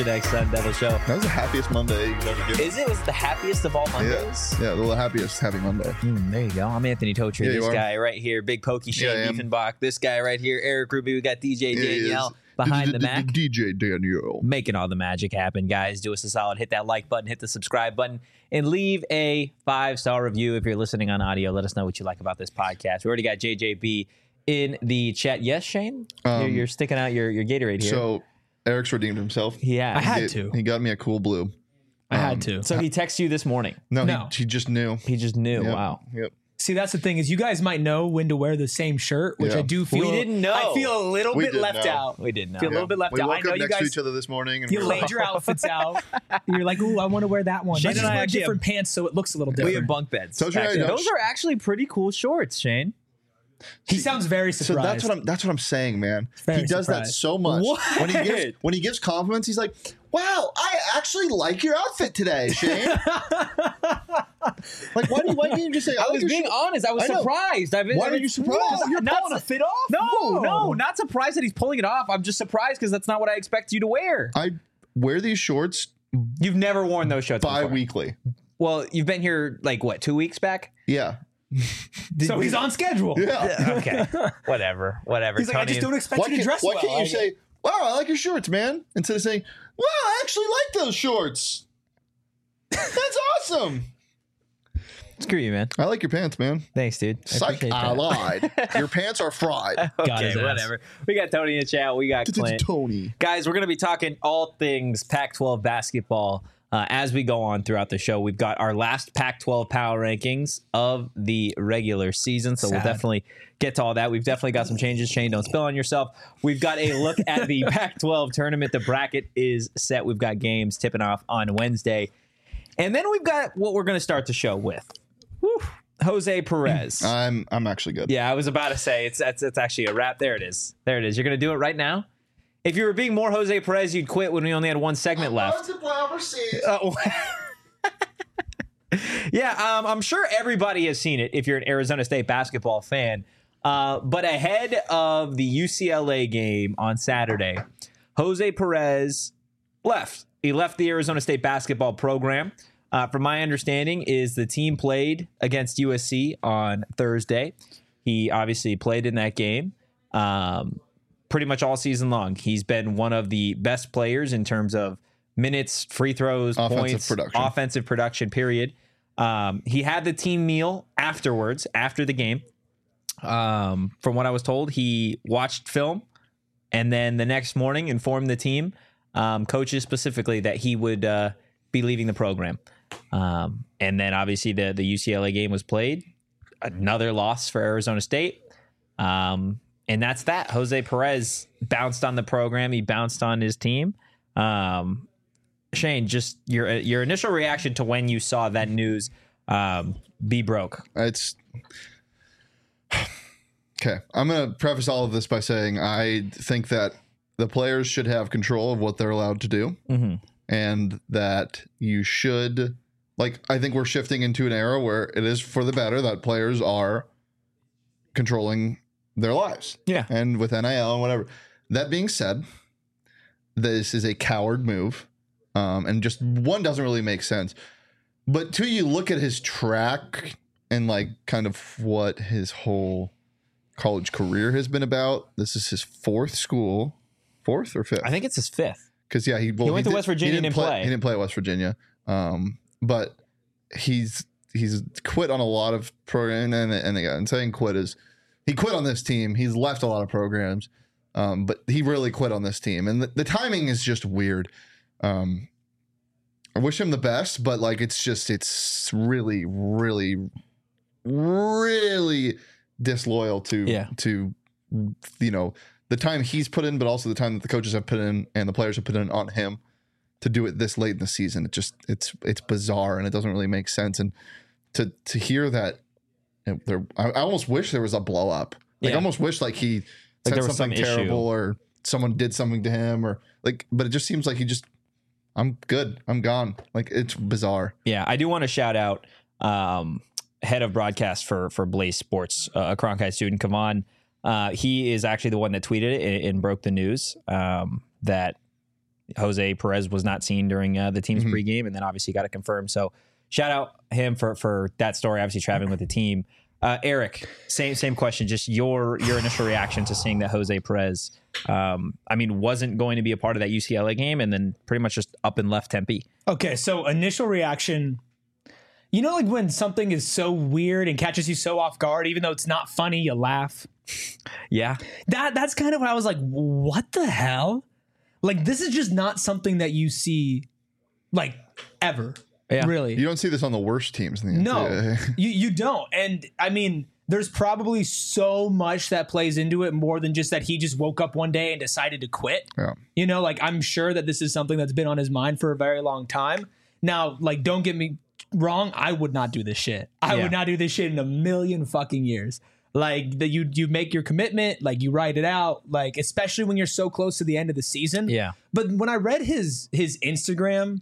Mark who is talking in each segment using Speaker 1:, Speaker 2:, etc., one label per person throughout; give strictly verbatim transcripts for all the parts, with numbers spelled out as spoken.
Speaker 1: next Sun Devil show.
Speaker 2: That was the happiest Monday you've ever given.
Speaker 1: Is it? Was it the happiest of all Mondays?
Speaker 2: Yeah, yeah, the happiest happy Monday.
Speaker 1: Mm, there you go. I'm Anthony Totri.
Speaker 2: Yeah,
Speaker 1: this
Speaker 2: you
Speaker 1: guy right here, Big Pokey Shane
Speaker 2: Yeah, I am.
Speaker 1: Diefenbach. This guy right here, Eric Ruby. We got D J
Speaker 2: Yeah, he is.
Speaker 1: Danielle behind the Mac.
Speaker 2: D J Danielle.
Speaker 1: Making all the magic happen, guys. Do us a solid. Hit that like button, hit the subscribe button, and leave a five-star review if you're listening on audio. Let us know what you like about this podcast. We already got J J B in the chat. Yes, Shane?
Speaker 2: Um,
Speaker 1: you're, you're sticking out your, your Gatorade here.
Speaker 2: So Eric's redeemed himself.
Speaker 1: yeah.
Speaker 3: I had
Speaker 2: He-
Speaker 3: to.
Speaker 2: He got me a cool blue.
Speaker 3: I
Speaker 2: Um,
Speaker 3: had to.
Speaker 1: So he texted you this morning.
Speaker 2: No,
Speaker 3: No.
Speaker 2: He, he just knew.
Speaker 1: He just knew.
Speaker 2: Yep,
Speaker 1: Wow.
Speaker 2: Yep.
Speaker 3: See, that's the thing is you guys might know when to wear the same shirt, which
Speaker 2: Yeah.
Speaker 3: I do feel.
Speaker 1: We didn't know.
Speaker 3: I feel a little
Speaker 2: We
Speaker 3: bit
Speaker 2: did
Speaker 3: left
Speaker 2: know.
Speaker 3: out.
Speaker 1: We did know.
Speaker 3: Feel a little bit left
Speaker 2: we
Speaker 3: out. I
Speaker 2: woke
Speaker 3: know
Speaker 2: up
Speaker 3: you
Speaker 2: next to
Speaker 3: guys.
Speaker 2: each other this morning. And
Speaker 3: You
Speaker 2: we were
Speaker 3: laid
Speaker 2: like,
Speaker 3: your outfits out. You're like, ooh, I want to wear that one.
Speaker 1: Shane
Speaker 3: Let's
Speaker 1: and
Speaker 3: just
Speaker 1: I
Speaker 3: wear
Speaker 1: actually
Speaker 3: different pants so it looks a little
Speaker 1: We
Speaker 3: different.
Speaker 1: have bunk beds.
Speaker 2: So,
Speaker 1: back
Speaker 2: you
Speaker 1: then.
Speaker 2: know-
Speaker 1: Those are actually pretty cool shorts, Shane.
Speaker 3: He sounds very
Speaker 2: So
Speaker 3: surprised.
Speaker 2: that's what I'm. That's what I'm saying, man.
Speaker 3: Very
Speaker 2: he does that
Speaker 3: surprised.
Speaker 2: so much.
Speaker 1: What?
Speaker 2: When he gives when he gives compliments, he's like, "Wow, I actually like your outfit today, Shane." Like, why do you, why can't you just say? I,
Speaker 1: I
Speaker 2: like
Speaker 1: was
Speaker 2: your
Speaker 1: being
Speaker 2: shirt."
Speaker 1: honest. I was
Speaker 2: I know.
Speaker 1: surprised. I've been,
Speaker 2: Why
Speaker 1: I
Speaker 2: are
Speaker 1: mean,
Speaker 2: you surprised?
Speaker 1: Whoa,
Speaker 3: You're
Speaker 1: not
Speaker 3: pulling a
Speaker 1: su-
Speaker 3: fit off?
Speaker 1: No,
Speaker 3: Whoa.
Speaker 1: no, not surprised that he's pulling it off. I'm just surprised because that's not what I expect you to wear.
Speaker 2: I wear these shorts
Speaker 1: You've never worn those shorts before.
Speaker 2: bi-weekly.
Speaker 1: Well, you've been here like what, two weeks back?
Speaker 2: Yeah,
Speaker 3: So he's on schedule.
Speaker 2: yeah.
Speaker 1: Okay, whatever, whatever.
Speaker 3: He's like, I
Speaker 1: Tony
Speaker 3: just don't expect
Speaker 2: Why
Speaker 3: you to
Speaker 2: can't,
Speaker 3: dress
Speaker 2: why
Speaker 3: well.
Speaker 2: can't you
Speaker 3: I-
Speaker 2: say, "Wow, I like your shorts, man," instead of saying, "Wow, I actually like those shorts." That's awesome.
Speaker 1: Screw you, man.
Speaker 2: I like your pants, man.
Speaker 1: Thanks, dude. I
Speaker 2: Psych,
Speaker 1: appreciate
Speaker 2: I
Speaker 1: that.
Speaker 2: lied. Your pants are fried.
Speaker 3: Got
Speaker 1: Okay,
Speaker 3: his ass.
Speaker 1: whatever. We got Tony in the chat. We got Clint.
Speaker 2: Tony.
Speaker 1: Guys, we're going to be talking all things Pac twelve basketball uh, as we go on throughout the show. We've got our last Pac twelve power rankings of the regular season, so we'll
Speaker 3: Sad.
Speaker 1: definitely get to all that. We've definitely got some changes. Shane, don't spill on yourself. We've got a look at the Pac twelve tournament. The bracket is set. We've got games tipping off on Wednesday. And then we've got what we're going to start the show with. Whew. Jose Perez.
Speaker 2: I'm I'm actually good.
Speaker 1: Yeah, I was about to say it's that's it's actually a wrap. There it is. There it is. You're gonna do it right now. If you were being more Jose Perez, you'd quit when we only had one segment left. Uh, yeah, um, I'm sure everybody has seen it if you're an Arizona State basketball fan. Uh, but ahead of the U C L A game on Saturday, Jose Perez left. He left the Arizona State basketball program. Uh, from my understanding, is the team played against U S C on Thursday. He obviously played in that game um, pretty much all season long. He's been one of the best players in terms of minutes, free throws,
Speaker 2: Offensive
Speaker 1: points,
Speaker 2: production.
Speaker 1: offensive production, period. Um, he had the team meal afterwards, after the game. Um, from what I was told, he watched film and then the next morning informed the team, um, coaches specifically, that he would uh, be leaving the program. Um, and then obviously the, the U C L A game was played. Another loss for Arizona State. Um, and that's that. Jose Perez bounced on the program. He bounced on his team. Um, Shane, just your your initial reaction to when you saw that news um, be broke.
Speaker 2: It's okay. I'm going to preface all of this by saying I think that the players should have control of what they're allowed to do,
Speaker 1: Mm-hmm.
Speaker 2: and that you should, like, I think we're shifting into an era where it is for the better that players are controlling their lives.
Speaker 1: Yeah.
Speaker 2: And with N I L and whatever. That being said, this is a coward move. Um, and just one doesn't really make sense. But two, you look at his track and like kind of what his whole college career has been about. This is his fourth school, fourth or fifth?
Speaker 1: I think it's his fifth.
Speaker 2: Because yeah, he, well,
Speaker 1: He went to West Virginia
Speaker 2: he
Speaker 1: and
Speaker 2: didn't
Speaker 1: didn't
Speaker 2: play,
Speaker 1: play.
Speaker 2: He didn't play at West Virginia, um, but he's he's quit on a lot of programs. And, and again, saying quit is he quit on this team. He's left a lot of programs, um, but he really quit on this team. And the, the timing is just weird. Um, I wish him the best, but like it's just it's really, really, really disloyal to
Speaker 1: Yeah.
Speaker 2: to you know. the time he's put in, but also the time that the coaches have put in and the players have put in on him to do it this late in the season. It just it's it's bizarre and it doesn't really make sense. And to to hear that, you know, there, I, I almost wish there was a blow up. Like
Speaker 1: Yeah.
Speaker 2: I almost wish like he said
Speaker 1: there was
Speaker 2: something
Speaker 1: some issue.
Speaker 2: terrible or someone did something to him or like. But it just seems like he just I'm good. I'm gone. Like it's bizarre.
Speaker 1: Yeah, I do want to shout out um, head of broadcast for for Blaze Sports, uh, a Cronkite student, Kavan. Uh, he is actually the one that tweeted it and, and broke the news um, that Jose Perez was not seen during uh, the team's
Speaker 2: Mhm.
Speaker 1: pregame, and then obviously got it confirmed. So shout out him for for that story. Obviously traveling with the team. Uh, Eric, same same question. Just your your initial reaction to seeing that Jose Perez, um, I mean, wasn't going to be a part of that U C L A game, and then pretty much just up and left Tempe.
Speaker 3: Okay, so initial reaction, you know, like when something is so weird and catches you so off guard, even though it's not funny, you laugh.
Speaker 1: Yeah,
Speaker 3: That that's kind of what I was like, what the hell? Like, this is just not something that you see, like, ever.
Speaker 1: Yeah.
Speaker 3: Really.
Speaker 2: You don't see this on the worst teams in the
Speaker 3: No,
Speaker 2: N C double A.
Speaker 3: you you don't. And I mean, there's probably so much that plays into it more than just that he just woke up one day and decided to quit.
Speaker 2: Yeah.
Speaker 3: You know, like, I'm sure that this is something that's been on his mind for a very long time. Now, like, don't get me wrong, I would not do this shit. I
Speaker 1: Yeah.
Speaker 3: would not do this shit in a million fucking years. Like, that you you make your commitment, like, you write it out, like, especially when you're so close to the end of the season.
Speaker 1: yeah,
Speaker 3: But when I read his his Instagram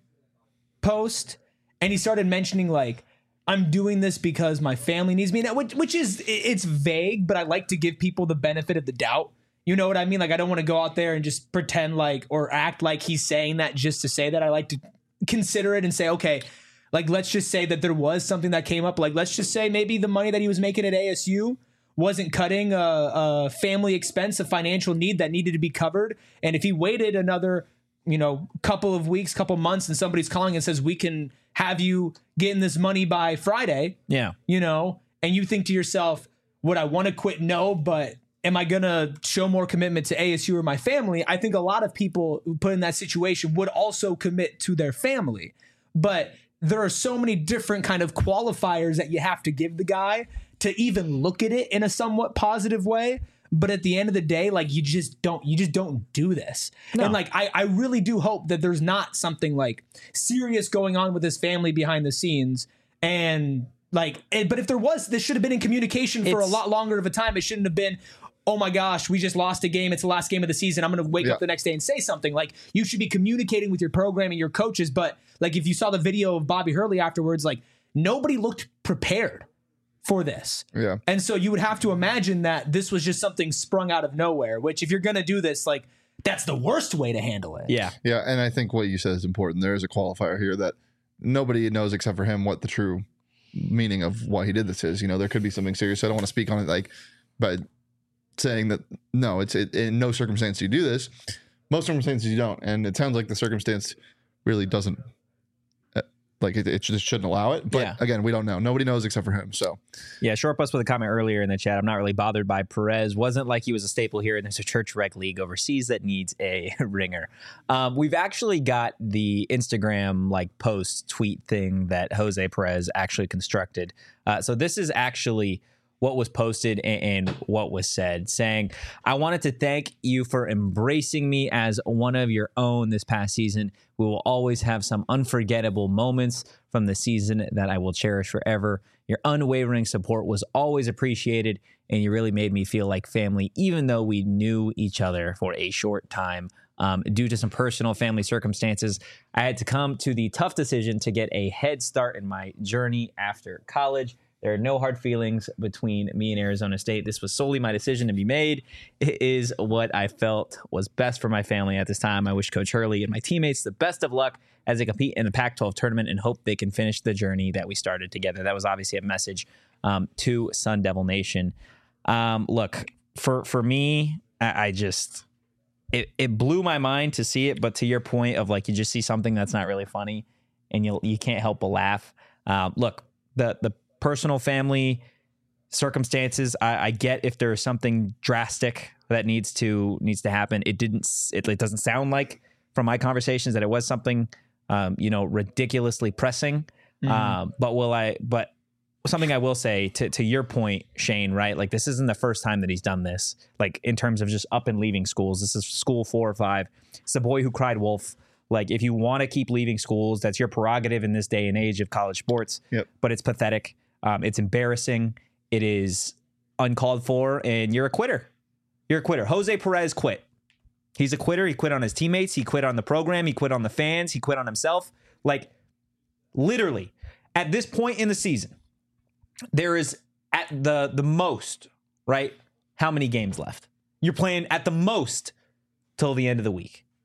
Speaker 3: post and he started mentioning, like, I'm doing this because my family needs me, and that- which, which is, it- it's vague, but I like to give people the benefit of the doubt. You know what I mean? Like, I don't want to go out there and just pretend like or act like he's saying that just to say that. I like to consider it and say, okay, like, let's just say that there was something that came up. Like, let's just say maybe the money that he was making at A S U wasn't cutting a, a family expense, a financial need that needed to be covered. And if he waited another, you know, couple of weeks, couple months, and somebody's calling and says, we can have you getting this money by Friday,
Speaker 1: yeah,
Speaker 3: you know, and you think to yourself, would I want to quit? No, but am I going to show more commitment to A S U or my family? I think a lot of people who put in that situation would also commit to their family. But there are so many different kind of qualifiers that you have to give the guy to even look at it in a somewhat positive way. But at the end of the day, like, you just don't, you just don't do this.
Speaker 1: No.
Speaker 3: And like, I, I really do hope that there's not something like serious going on with his family behind the scenes. And like, eh, but if there was, this should have been in communication for
Speaker 1: It's-
Speaker 3: a lot longer of a time. It shouldn't have been, oh my gosh, we just lost a game. It's the last game of the season. I'm going to wake
Speaker 2: Yeah.
Speaker 3: up the next day and say something. Like, you should be communicating with your program and your coaches. But like, if you saw the video of Bobby Hurley afterwards, like, nobody looked prepared for this.
Speaker 2: Yeah.
Speaker 3: And so you would have to imagine that this was just something sprung out of nowhere, which if you're going to do this, like, that's the worst way to handle it.
Speaker 1: yeah,
Speaker 2: Yeah. And I think what you said is important. There is a qualifier here that nobody knows except for him what the true meaning of why he did this is. You know, there could be something serious. I don't want to speak on it, like, but saying that no, it's it, in no circumstance do you do this. Most circumstances you don't. And it sounds like the circumstance really doesn't, uh, like, it, it just shouldn't allow it. But
Speaker 1: Yeah.
Speaker 2: again, we don't know. Nobody knows except for him. So
Speaker 1: yeah. Short Bus with a comment earlier in the chat. I'm not really bothered by Perez. Wasn't like he was a staple here, and there's a church rec league overseas that needs a ringer. Um, we've actually got the Instagram like post tweet thing that Jose Perez actually constructed. Uh, so this is actually what was posted and, and what was said, saying, I wanted to thank you for embracing me as one of your own this past season. We will always have some unforgettable moments from the season that I will cherish forever. Your unwavering support was always appreciated, and you really made me feel like family, even though we knew each other for a short time. Um, due to some personal family circumstances, I had to come to the tough decision to get a head start in my journey after college. There are no hard feelings between me and Arizona State. This was solely my decision to be made. It is what I felt was best for my family at this time. I wish Coach Hurley and my teammates the best of luck as they compete in the Pac twelve tournament and hope they can finish the journey that we started together. That was obviously a message um, to Sun Devil Nation. Um, look, for, for me, I, I just, it, it blew my mind to see it. But to your point of like, you just see something that's not really funny and you you can't help but laugh. Um, look, the the personal family circumstances, I, I get if there is something drastic that needs to needs to happen. It didn't. It, it doesn't sound like from my conversations that it was something, um, you know, ridiculously pressing.
Speaker 3: Mhm.
Speaker 1: Um, but will I? But something I will say to to your point, Shane. Right? Like this isn't the first time that he's done this. Like in terms of just up and leaving schools. This is school four or five. It's the boy who cried wolf. Like if you want to keep leaving schools, that's your prerogative in this day and age of college sports.
Speaker 2: Yep.
Speaker 1: But it's pathetic. Um, it's embarrassing. It is uncalled for, and you're a quitter. You're a quitter. Jose Perez quit. He's a quitter. He quit on his teammates. He quit on the program. He quit on the fans. He quit on himself. Like, literally, at this point in the season, there is at the the most, right? How many games left? You're playing at the most till the end of the week.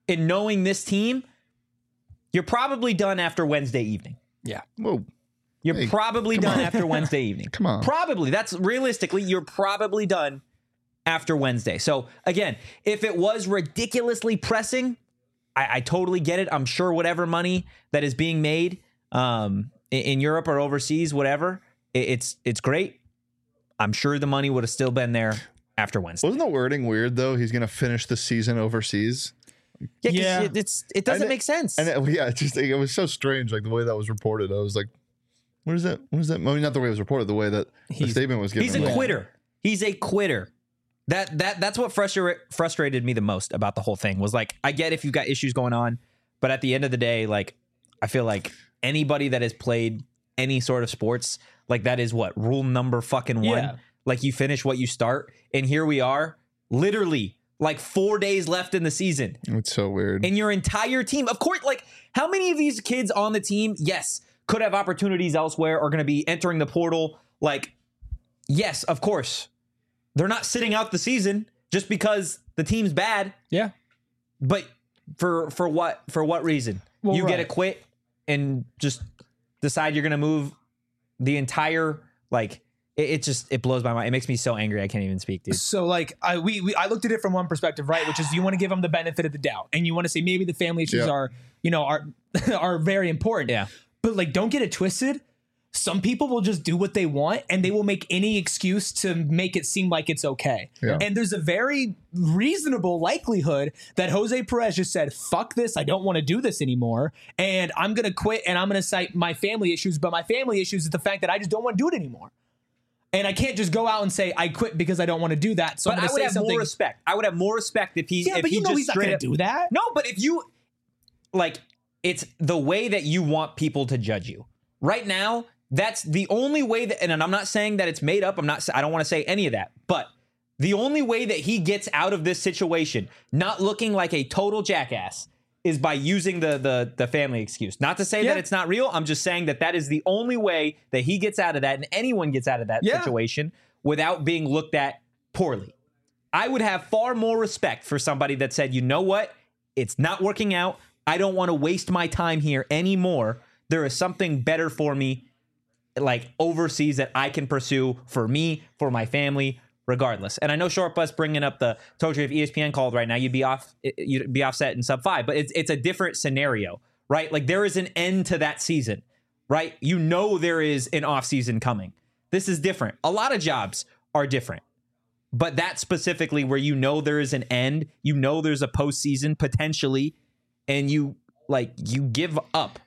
Speaker 1: and knowing this team, you're probably done after Wednesday evening.
Speaker 3: Yeah.
Speaker 2: Whoa.
Speaker 1: You're
Speaker 2: Hey,
Speaker 1: probably
Speaker 2: come
Speaker 1: done
Speaker 2: on.
Speaker 1: after Wednesday evening.
Speaker 2: Come on.
Speaker 1: Probably. That's realistically, you're probably done after Wednesday. So again, if it was ridiculously pressing, I, I totally get it. I'm sure whatever money that is being made um, in, in Europe or overseas, whatever, it, it's it's great. I'm sure the money would have still been there after Wednesday.
Speaker 2: Wasn't the wording weird though? He's gonna finish the season overseas.
Speaker 1: Yeah, 'cause
Speaker 3: Yeah.
Speaker 1: It, it's it doesn't
Speaker 2: And it-
Speaker 1: make sense.
Speaker 2: And it, yeah, it just it was so strange, like the way that was reported. I was like, "What is that? What is that?" I mean, not the way it was reported, the way that the
Speaker 3: He's-
Speaker 2: statement was given.
Speaker 1: He's a
Speaker 2: Like,
Speaker 1: quitter. He's a quitter. That that that's what frustra- frustrated me the most about the whole thing was like, I get if you've got issues going on, but at the end of the day, like I feel like anybody that has played any sort of sports, like that is what rule number fucking one.
Speaker 3: Yeah.
Speaker 1: Like you finish what you start, and here we are, literally like four days left in the season.
Speaker 2: It's so weird.
Speaker 1: And your entire team, of course, like how many of these kids on the team, yes, could have opportunities elsewhere, are going to be entering the portal. Like, yes, of course. They're not sitting out the season just because the team's bad.
Speaker 3: Yeah.
Speaker 1: But for for what for what reason?
Speaker 3: Well,
Speaker 1: you get to
Speaker 3: right.
Speaker 1: quit and just decide you're going to move the entire like it, it just it blows my mind. It makes me so angry I can't even speak, dude.
Speaker 3: So like I we, we I looked at it from one perspective, right? Which is you want to give them the benefit of the doubt, and you want to say maybe the family issues
Speaker 2: Yeah.
Speaker 3: are you know are are very important.
Speaker 1: Yeah.
Speaker 3: But like, don't get it twisted. Some people will just do what they want, and they will make any excuse to make it seem like it's okay.
Speaker 2: Yeah.
Speaker 3: And there's a very reasonable likelihood that Jose Perez just said, "Fuck this! I don't want to do this anymore, and I'm gonna quit, and I'm gonna cite my family issues." But my family issues is the fact that I just don't want to do it anymore. And I can't just go out and say I quit because I don't want to do that. So
Speaker 1: But
Speaker 3: I'm
Speaker 1: I
Speaker 3: going to
Speaker 1: would
Speaker 3: say
Speaker 1: have
Speaker 3: something.
Speaker 1: more respect. I would have more respect if he
Speaker 3: yeah,
Speaker 1: if
Speaker 3: but
Speaker 1: he
Speaker 3: you know
Speaker 1: just
Speaker 3: he's not
Speaker 1: straight
Speaker 3: going
Speaker 1: up
Speaker 3: to do that.
Speaker 1: No, but if you like, it's the way that you want people to judge you. Right now, that's the only way that, and I'm not saying that it's made up. I'm not. I don't want to say any of that. But the only way that he gets out of this situation, not looking like a total jackass, is by using the the the family excuse. Not to say
Speaker 3: Yeah.
Speaker 1: that it's not real. I'm just saying that that is the only way that he gets out of that, and anyone gets out of that
Speaker 3: Yeah.
Speaker 1: situation without being looked at poorly. I would have far more respect for somebody that said, you know what? It's not working out. I don't want to waste my time here anymore. There is something better for me, like overseas, that I can pursue for me, for my family, regardless. And I know Short Bus bringing up the told you if E S P N called right now, you'd be off, you'd be offset in sub five, but it's it's a different scenario, right? Like there is an end to that season, right? You know there is an off season coming. This is different. A lot of jobs are different. But that specifically where you know there is an end, you know there's a postseason potentially, and you like you give up.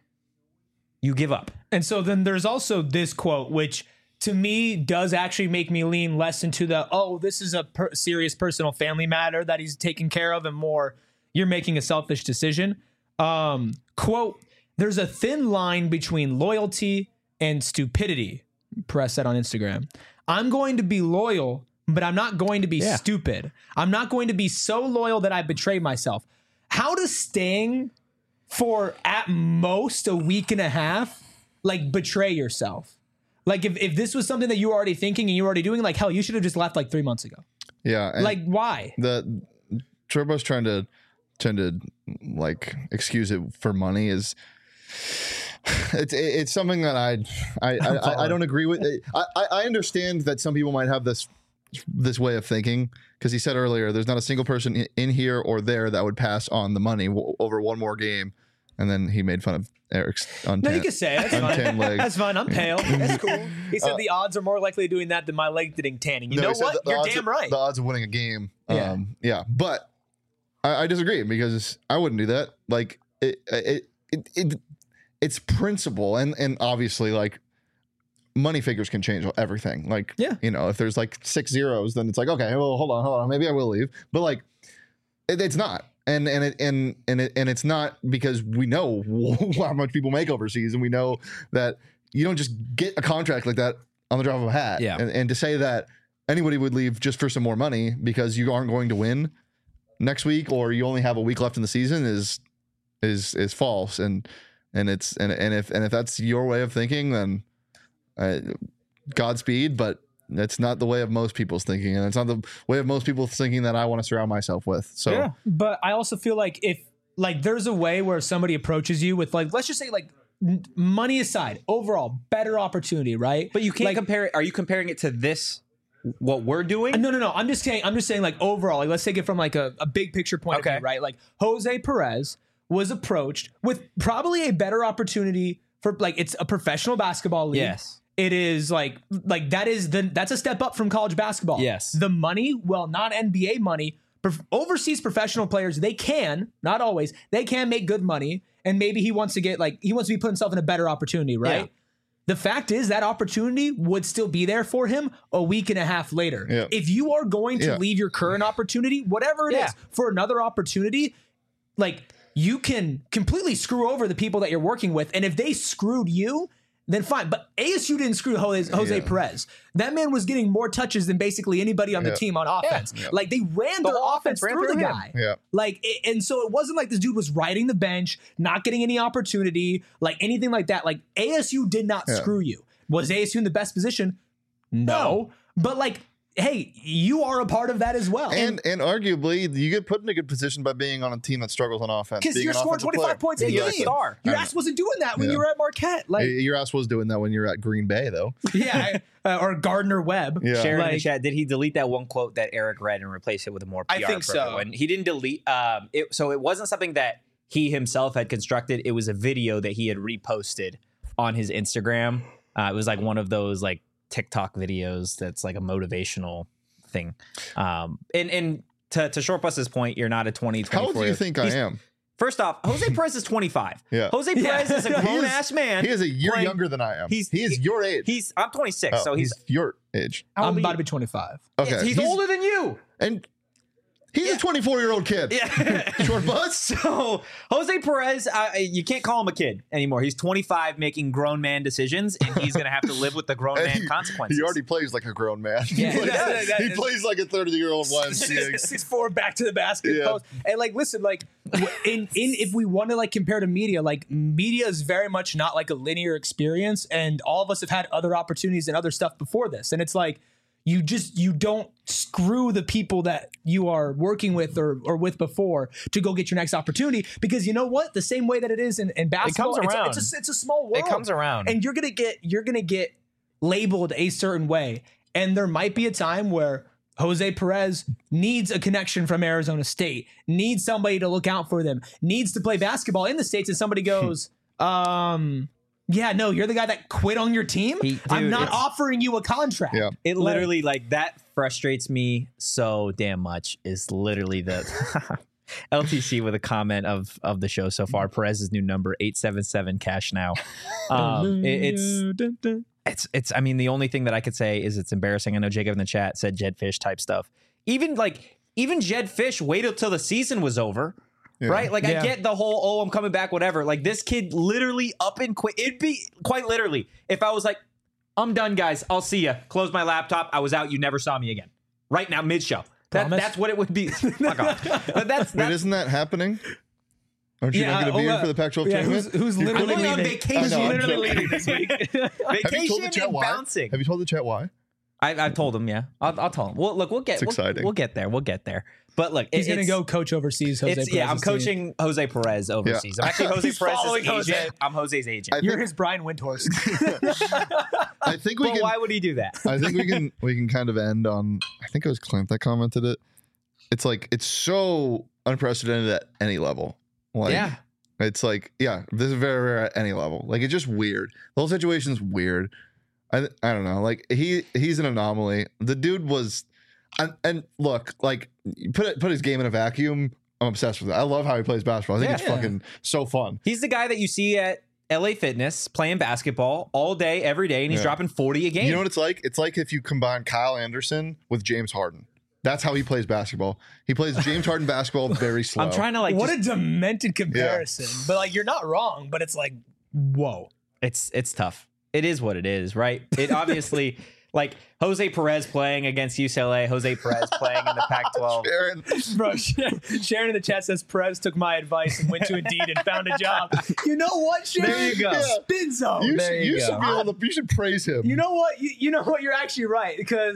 Speaker 1: You give up.
Speaker 3: And so then there's also this quote, which to me does actually make me lean less into the, oh, this is a per- serious personal family matter that he's taking care of, and more, you're making a selfish decision. Um, quote, there's a thin line between loyalty and stupidity. Perez said on Instagram, I'm going to be loyal, but I'm not going to be
Speaker 1: Yeah.
Speaker 3: stupid. I'm not going to be so loyal that I betray myself. How does staying for at most a week and a half, like betray yourself? Like if, if this was something that you were already thinking and you were already doing, like hell, you should have just left like three months ago.
Speaker 2: Yeah. and
Speaker 3: Like why?
Speaker 2: the Turbo's trying to trying to like excuse it for money is it's it's something that I I I, I, I don't agree with. I, I I understand that some people might have this this way of thinking, because he said earlier there's not a single person in- in here or there that would pass on the money w- over one more game, and then he made fun of Eric's
Speaker 3: No,
Speaker 2: untan-
Speaker 3: you can say it. That's
Speaker 2: untanned
Speaker 3: fine.
Speaker 2: legs.
Speaker 3: That's fine. I'm pale. That's cool. He said the odds are more likely doing that than my leg getting tanning. You
Speaker 2: No,
Speaker 3: know
Speaker 2: he said
Speaker 3: what?
Speaker 2: the- the
Speaker 3: You're
Speaker 2: odds
Speaker 3: damn
Speaker 2: of-
Speaker 3: right.
Speaker 2: The odds of winning a game.
Speaker 3: Yeah.
Speaker 2: Um, yeah. But I, I disagree, because I wouldn't do that. Like it, it, it, it it's principle, and and obviously like money figures can change everything. Like,
Speaker 3: Yeah.
Speaker 2: you know, if there's like six zeros, then it's like, okay, well, hold on, hold on, maybe I will leave. But like, it, it's not. And and it and and it and it's not because we know how much people make overseas, and we know that you don't just get a contract like that on the drop of a hat.
Speaker 1: Yeah.
Speaker 2: And, and to say that anybody would leave just for some more money because you aren't going to win next week, or you only have a week left in the season, is is is false. And and it's and and if and if that's your way of thinking, then uh, Godspeed. But that's not the way of most people's thinking, and it's not the way of most people thinking that I want to surround myself with. So
Speaker 3: Yeah. But I also feel like if like there's a way where somebody approaches you with like, let's just say like n- money aside, overall better opportunity, right?
Speaker 1: But you can't
Speaker 3: like,
Speaker 1: compare it. Are you comparing it to this, what we're doing?
Speaker 3: No, no, no. I'm just saying. I'm just saying. Like overall, like let's take it from like a, a big picture point
Speaker 1: Okay.
Speaker 3: of view, right? Like Jose Perez was approached with probably a better opportunity for like it's a professional basketball league.
Speaker 1: Yes.
Speaker 3: It is like like that is the that's a step up from college basketball.
Speaker 1: Yes.
Speaker 3: The money, well, not N B A money. Prof- overseas professional players, they can, not always, they can make good money, and maybe he wants to get like he wants to be put himself in a better opportunity, right?
Speaker 1: Yeah.
Speaker 3: The fact is that opportunity would still be there for him a week and a half later.
Speaker 2: Yeah.
Speaker 3: If you are going to
Speaker 2: Yeah.
Speaker 3: leave your current opportunity, whatever it is,
Speaker 1: Yeah.
Speaker 3: for another opportunity, like you can completely screw over the people that you're working with. And if they screwed you, then fine. But A S U didn't screw Jose, Jose
Speaker 2: Yeah.
Speaker 3: Perez. That man was getting more touches than basically anybody on the
Speaker 2: Yeah.
Speaker 3: team on offense.
Speaker 2: Yeah.
Speaker 3: Like they ran
Speaker 1: The
Speaker 3: their
Speaker 1: whole
Speaker 3: offense
Speaker 1: offense ran
Speaker 3: through the
Speaker 1: through him.
Speaker 3: guy.
Speaker 2: Yeah.
Speaker 3: Like, it, and so it wasn't like this dude was riding the bench, not getting any opportunity, like anything like that. Like A S U did not
Speaker 2: Yeah.
Speaker 3: screw you. Was A S U in the best position? No. But like, hey, you are a part of that as well.
Speaker 2: And and arguably, you get put in a good position by being on a team that struggles on offense.
Speaker 3: because
Speaker 2: being
Speaker 3: you're
Speaker 2: an
Speaker 3: scoring
Speaker 2: offensive
Speaker 3: twenty-five
Speaker 2: player.
Speaker 3: points a
Speaker 1: Yeah, you're a
Speaker 3: game.
Speaker 1: star.
Speaker 3: Your
Speaker 2: I
Speaker 3: ass wasn't doing that when
Speaker 2: Yeah.
Speaker 3: you were at Marquette. Like,
Speaker 2: Hey, Your ass was doing that when you were at Green Bay, though.
Speaker 3: yeah, uh, or Gardner Webb.
Speaker 2: Yeah.
Speaker 1: Sharon in the
Speaker 3: Like-
Speaker 1: chat, did he delete that one quote that Eric read and replace it with a more P R
Speaker 3: I think so.
Speaker 1: appropriate one? He didn't delete. Um, it, so it wasn't something that he himself had constructed. It was a video that he had reposted on his Instagram. Uh, it was like one of those like TikTok videos that's like a motivational thing. Um, and and to, to Short Bus's point, you're not a twenty,
Speaker 2: How old do you think I
Speaker 1: He's-
Speaker 2: am?
Speaker 1: First off, Jose Perez is twenty-five.
Speaker 2: Yeah.
Speaker 1: Jose Perez
Speaker 3: Yeah.
Speaker 1: is a
Speaker 2: He
Speaker 1: grown
Speaker 2: is-
Speaker 1: ass man.
Speaker 2: He is a year
Speaker 1: playing-
Speaker 2: younger than I am.
Speaker 1: he's-
Speaker 2: he is
Speaker 1: he-
Speaker 2: your age.
Speaker 1: He's I'm twenty-six,
Speaker 2: Oh,
Speaker 1: so he's
Speaker 2: your age.
Speaker 1: how old
Speaker 3: I'm
Speaker 1: are
Speaker 3: about
Speaker 1: you?
Speaker 3: to be twenty-five.
Speaker 2: Okay,
Speaker 1: he's, older than you.
Speaker 2: and he's a twenty-four-year-old kid.
Speaker 1: Yeah.
Speaker 2: Short Bus.
Speaker 1: So Jose Perez, uh, you can't call him a kid anymore. He's twenty-five, making grown man decisions, and he's going to have to live with the grown
Speaker 2: And
Speaker 1: man
Speaker 2: he-
Speaker 1: consequences.
Speaker 2: He already plays like a grown man. He
Speaker 3: Yeah,
Speaker 2: plays,
Speaker 3: that- that-
Speaker 2: he
Speaker 3: that-
Speaker 2: plays like a thirty-year-old Y M C A.
Speaker 3: Six four back to the basket
Speaker 2: Yeah.
Speaker 3: post. And like, listen, like, w- in in if we want to like compare to media, like media is very much not like a linear experience, and all of us have had other opportunities and other stuff before this, and it's like you just you don't screw the people that you are working with or or with before to go get your next opportunity, because you know what, the same way that it is in, in basketball,
Speaker 1: comes
Speaker 3: it's, a-
Speaker 1: around.
Speaker 3: it's a it's a small world.
Speaker 1: It comes around.
Speaker 3: And you're gonna get you're gonna get labeled a certain way, and there might be a time where Jose Perez needs a connection from Arizona State, needs somebody to look out for them, needs to play basketball in the States, and somebody goes, um, yeah, no, you're the guy that quit on your team.
Speaker 1: He-
Speaker 3: I'm
Speaker 1: dude,
Speaker 3: not
Speaker 1: it's-
Speaker 3: offering you a contract.
Speaker 2: Yeah.
Speaker 1: It literally like that frustrates me so damn much. Is literally the L T C with a comment of of the show so far. Perez's new number eight seven seven cash now. Um, it- it's it's it's. I mean, the only thing that I could say is it's embarrassing. I know Jacob in the chat said Jed Fish type stuff. Even like even Jed Fish waited till the season was over.
Speaker 2: Yeah.
Speaker 1: Right? Like,
Speaker 3: Yeah.
Speaker 1: I get the whole, oh, I'm coming back, whatever. Like, this kid literally up and quit. It'd be quite literally if I was like, I'm done, guys. I'll see ya. Close my laptop. I was out. You never saw me again. Right now, mid show. That,
Speaker 3: Promise?
Speaker 1: that's what it would be. Fuck off. But that's,
Speaker 2: Wait,
Speaker 1: that's
Speaker 2: isn't that happening? Aren't you
Speaker 3: Yeah,
Speaker 2: not going to
Speaker 3: oh,
Speaker 2: be here
Speaker 3: uh,
Speaker 2: for the Pac twelve
Speaker 3: yeah,
Speaker 2: tournament?
Speaker 3: who's, who's
Speaker 2: You're
Speaker 3: literally
Speaker 1: going on
Speaker 3: leaving?
Speaker 1: vacation.
Speaker 3: Who's
Speaker 2: I know, I'm
Speaker 3: literally
Speaker 2: joking.
Speaker 3: leaving this week?
Speaker 2: Have you told the
Speaker 1: vacation
Speaker 2: chat
Speaker 1: and
Speaker 2: why?
Speaker 1: bouncing.
Speaker 2: Have you told the chat why?
Speaker 1: I, I've told him, yeah. I'll, I'll tell him. Well, look, we'll get
Speaker 2: It's
Speaker 1: we'll,
Speaker 2: exciting.
Speaker 1: We'll get there. We'll get there. But look,
Speaker 3: He's
Speaker 1: it-
Speaker 3: going to
Speaker 1: it's-
Speaker 3: go coach overseas. Jose
Speaker 1: It's, yeah, I'm
Speaker 3: Perez's team.
Speaker 1: coaching Jose Perez overseas. I'm actually Jose
Speaker 3: He's
Speaker 1: Perez's
Speaker 3: following
Speaker 1: agent.
Speaker 3: Jose.
Speaker 1: I'm Jose's agent.
Speaker 2: I
Speaker 3: You're
Speaker 2: think,
Speaker 3: his Brian Windhorst.
Speaker 2: I think we
Speaker 1: but
Speaker 2: can.
Speaker 1: why would he do that?
Speaker 2: I think we can. We can kind of end on. I think it was Clint that commented it. It's like it's so unprecedented at any level. Like,
Speaker 1: Yeah.
Speaker 2: It's like, yeah, this is very rare at any level. Like, it's just weird. The whole situation's weird. I I don't know. Like, he he's an anomaly. The dude was, and, and look, like, put it, put his game in a vacuum. I'm obsessed with it. I love how he plays basketball. I think
Speaker 1: Yeah.
Speaker 2: it's fucking so fun.
Speaker 1: He's the guy that you see at L A Fitness playing basketball all day, every day, and he's
Speaker 2: Yeah.
Speaker 1: dropping forty a game.
Speaker 2: You know what it's like? It's like if you combine Kyle Anderson with James Harden. That's how he plays basketball. He plays James Harden basketball very slow.
Speaker 1: I'm trying to like.
Speaker 3: what
Speaker 1: just-
Speaker 3: a demented comparison. But like, you're not wrong. But it's like, whoa.
Speaker 1: it's it's tough. It is what it is, right? It obviously like Jose Perez playing against U C L A, Jose Perez playing in the Pac twelve.
Speaker 2: Aaron,
Speaker 3: Bro, Sharon in the chat says Perez took my advice and went to Indeed and found a job. You know what, Sharon?
Speaker 1: There you go.
Speaker 2: Yeah.
Speaker 3: Spin zone.
Speaker 2: you,
Speaker 1: There
Speaker 2: should,
Speaker 1: you
Speaker 2: you
Speaker 1: go.
Speaker 2: should be able to. You should praise him.
Speaker 3: You know what? You, you know what? You're actually right, because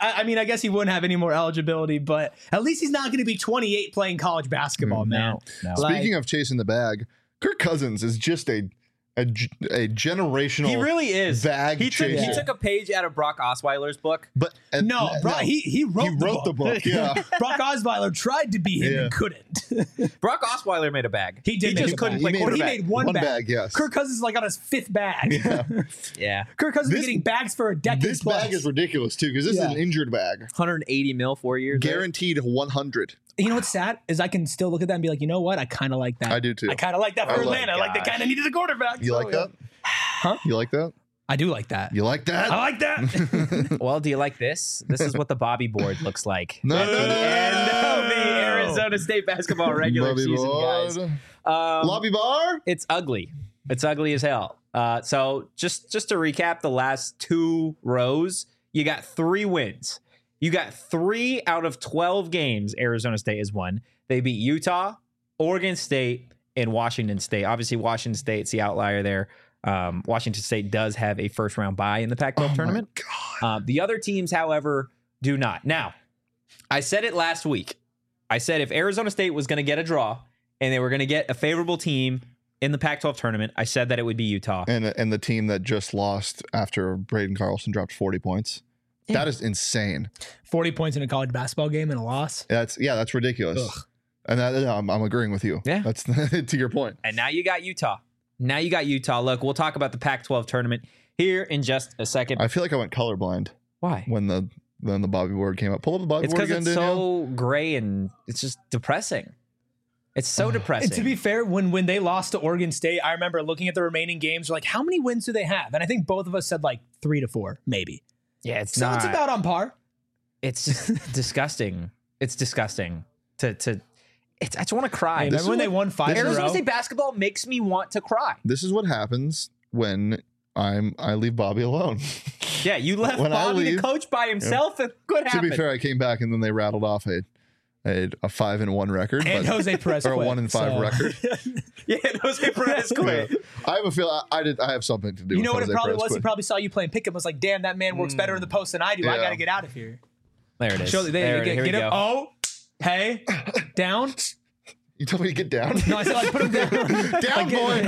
Speaker 3: I, I mean, I guess he wouldn't have any more eligibility, but at least he's not going to be twenty-eight playing college basketball, man.
Speaker 1: No.
Speaker 3: Like-
Speaker 2: Speaking of chasing the bag, Kirk Cousins is just a a, g- a generational.
Speaker 1: He really is.
Speaker 2: bag
Speaker 1: He took, he
Speaker 2: chaser.
Speaker 1: took a page out of Brock Osweiler's book.
Speaker 2: But and-
Speaker 3: No, bro, he he wrote,
Speaker 2: he
Speaker 3: the,
Speaker 2: wrote
Speaker 3: book.
Speaker 2: the book. Yeah,
Speaker 3: Brock Osweiler tried to be him
Speaker 2: Yeah.
Speaker 3: and couldn't.
Speaker 1: Brock Osweiler made a bag.
Speaker 3: He did
Speaker 1: He
Speaker 3: make
Speaker 1: just
Speaker 3: a
Speaker 1: couldn't
Speaker 3: bag.
Speaker 1: play
Speaker 2: He made-
Speaker 3: Well, he
Speaker 1: quarterback.
Speaker 3: made one,
Speaker 2: One
Speaker 3: bag.
Speaker 2: bag, yes.
Speaker 3: Kirk Cousins is like on his fifth bag.
Speaker 2: yeah.
Speaker 1: Yeah.
Speaker 3: Kirk Cousins
Speaker 2: This-
Speaker 3: is getting bags for a decade
Speaker 2: This
Speaker 3: plus.
Speaker 2: bag is ridiculous too because this
Speaker 3: Yeah.
Speaker 2: is an injured bag,
Speaker 1: one hundred eighty mil, four years. right?
Speaker 2: guaranteed one hundred.
Speaker 3: You know what's sad is I can still look at that and be like, you know what? I kind of like that.
Speaker 2: I do too.
Speaker 3: I kind of like that
Speaker 2: Oh
Speaker 3: for
Speaker 2: my
Speaker 3: Atlanta. Like they
Speaker 1: gosh.
Speaker 3: kind of needed a quarterback.
Speaker 2: You
Speaker 3: so,
Speaker 2: like
Speaker 3: yeah.
Speaker 2: that?
Speaker 3: Huh?
Speaker 2: You like that?
Speaker 3: I do like that.
Speaker 2: You like that?
Speaker 3: I like that.
Speaker 1: Well, do you like this? This is what the Bobby board looks like
Speaker 2: No.
Speaker 1: at the end of the Arizona State basketball regular
Speaker 2: Bobby
Speaker 1: season,
Speaker 2: Board.
Speaker 1: guys. Um,
Speaker 2: Lobby bar.
Speaker 1: it's ugly. It's ugly as hell. Uh, so just just to recap, the last two rows, you got three wins. You got three out of twelve games Arizona State has won. They beat Utah, Oregon State, and Washington State. Obviously, Washington State's the outlier there. Um, Washington State does have a first round bye in the Pac twelve
Speaker 2: Oh my
Speaker 1: tournament. Uh, the other teams, however, do not. Now, I said it last week. I said if Arizona State was going to get a draw and they were going to get a favorable team in the Pac twelve tournament, I said that it would be Utah.
Speaker 2: And and the team that just lost after Braden Carlson dropped forty points.
Speaker 1: Yeah.
Speaker 2: That is insane.
Speaker 3: forty points in a college basketball game and a loss.
Speaker 2: That's yeah, that's ridiculous.
Speaker 3: Ugh.
Speaker 2: And that, yeah, I'm, I'm agreeing with you.
Speaker 1: Yeah.
Speaker 2: That's to your point.
Speaker 1: And now you got Utah. Now you got Utah. Look, we'll talk about the Pac twelve tournament here in just a second.
Speaker 2: I feel like I went colorblind
Speaker 1: Why?
Speaker 2: when the when the Bobby board came up. Pull up the Bobby
Speaker 1: It's
Speaker 2: board
Speaker 1: because
Speaker 2: again,
Speaker 1: it's
Speaker 2: Danielle.
Speaker 1: so gray and it's just depressing. It's so depressing.
Speaker 3: And to be fair, when when they lost to Oregon State, I remember looking at the remaining games, like, how many wins do they have? And I think both of us said like three to four, maybe.
Speaker 1: yeah, it's
Speaker 3: So
Speaker 1: not.
Speaker 3: it's about on par.
Speaker 1: It's just disgusting. It's disgusting to to. It's, I just want to cry.
Speaker 3: Hey,
Speaker 2: This
Speaker 3: remember when
Speaker 2: is
Speaker 3: they
Speaker 2: what-
Speaker 3: won five in a
Speaker 1: Arizona
Speaker 3: row?
Speaker 1: State basketball makes me want to cry.
Speaker 2: This is what happens when I'm I leave Bobby alone.
Speaker 1: Yeah, you left
Speaker 2: When I
Speaker 1: Bobby to
Speaker 2: leave-
Speaker 1: coach by himself, and what
Speaker 2: To
Speaker 1: happened?
Speaker 2: be fair, I came back and then they rattled off a a, a five and one record,
Speaker 3: And
Speaker 2: but,
Speaker 3: Jose Perez
Speaker 2: or a
Speaker 3: quit,
Speaker 2: one and five
Speaker 3: so-
Speaker 2: record.
Speaker 1: yeah, Jose Perez quit.
Speaker 2: Yeah. I have a feel I, I did. I have something to do.
Speaker 3: You
Speaker 2: with
Speaker 3: know what it
Speaker 2: Jose
Speaker 3: probably
Speaker 2: Perez
Speaker 3: was? He
Speaker 2: quit.
Speaker 3: probably saw you playing pickup. Was like, damn, that man works better in the post than I do. I
Speaker 2: Yeah.
Speaker 3: got to get out of here.
Speaker 1: There it is.
Speaker 3: Show, they,
Speaker 1: there,
Speaker 3: get,
Speaker 1: here
Speaker 3: get
Speaker 1: we
Speaker 3: him.
Speaker 1: go.
Speaker 3: Oh, hey, down.
Speaker 2: You told me to get down.
Speaker 3: No, I said like put him down.
Speaker 2: Down, boy.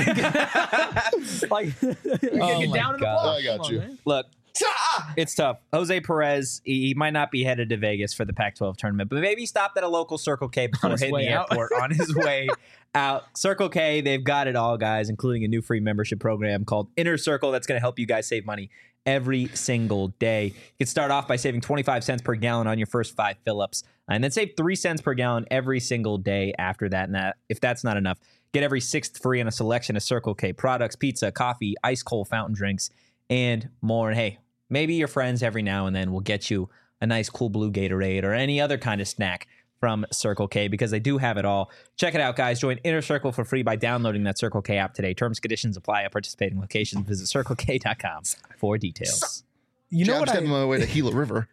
Speaker 3: like get
Speaker 1: Oh my
Speaker 3: down in the
Speaker 1: God.
Speaker 3: block.
Speaker 2: I got
Speaker 3: Come on,
Speaker 2: you.
Speaker 3: man.
Speaker 1: Look, it's tough. Jose Perez, he, he might not be headed to Vegas for the Pac twelve tournament, but maybe he stopped at a local Circle K before
Speaker 3: his
Speaker 1: hitting
Speaker 3: way
Speaker 1: the
Speaker 3: out.
Speaker 1: airport on his way out. Circle K, they've got it all, guys, including a new free membership program called Inner Circle that's going to help you guys save money every single day. You can start off by saving twenty-five cents per gallon on your first five fill-ups, and then save three cents per gallon every single day after that. And that, if that's not enough, get every sixth free on a selection of Circle K products, pizza, coffee, ice cold fountain drinks, and more. And hey, maybe your friends every now and then will get you a nice cool blue Gatorade or any other kind of snack from Circle K, because they do have it all. Check it out, guys. Join Inner Circle for free by downloading that Circle K app today. Terms, conditions apply at participating locations. Visit circle k dot com for details.
Speaker 3: You know
Speaker 2: I'm
Speaker 3: what
Speaker 2: stepping
Speaker 3: I,
Speaker 2: my way to Gila River.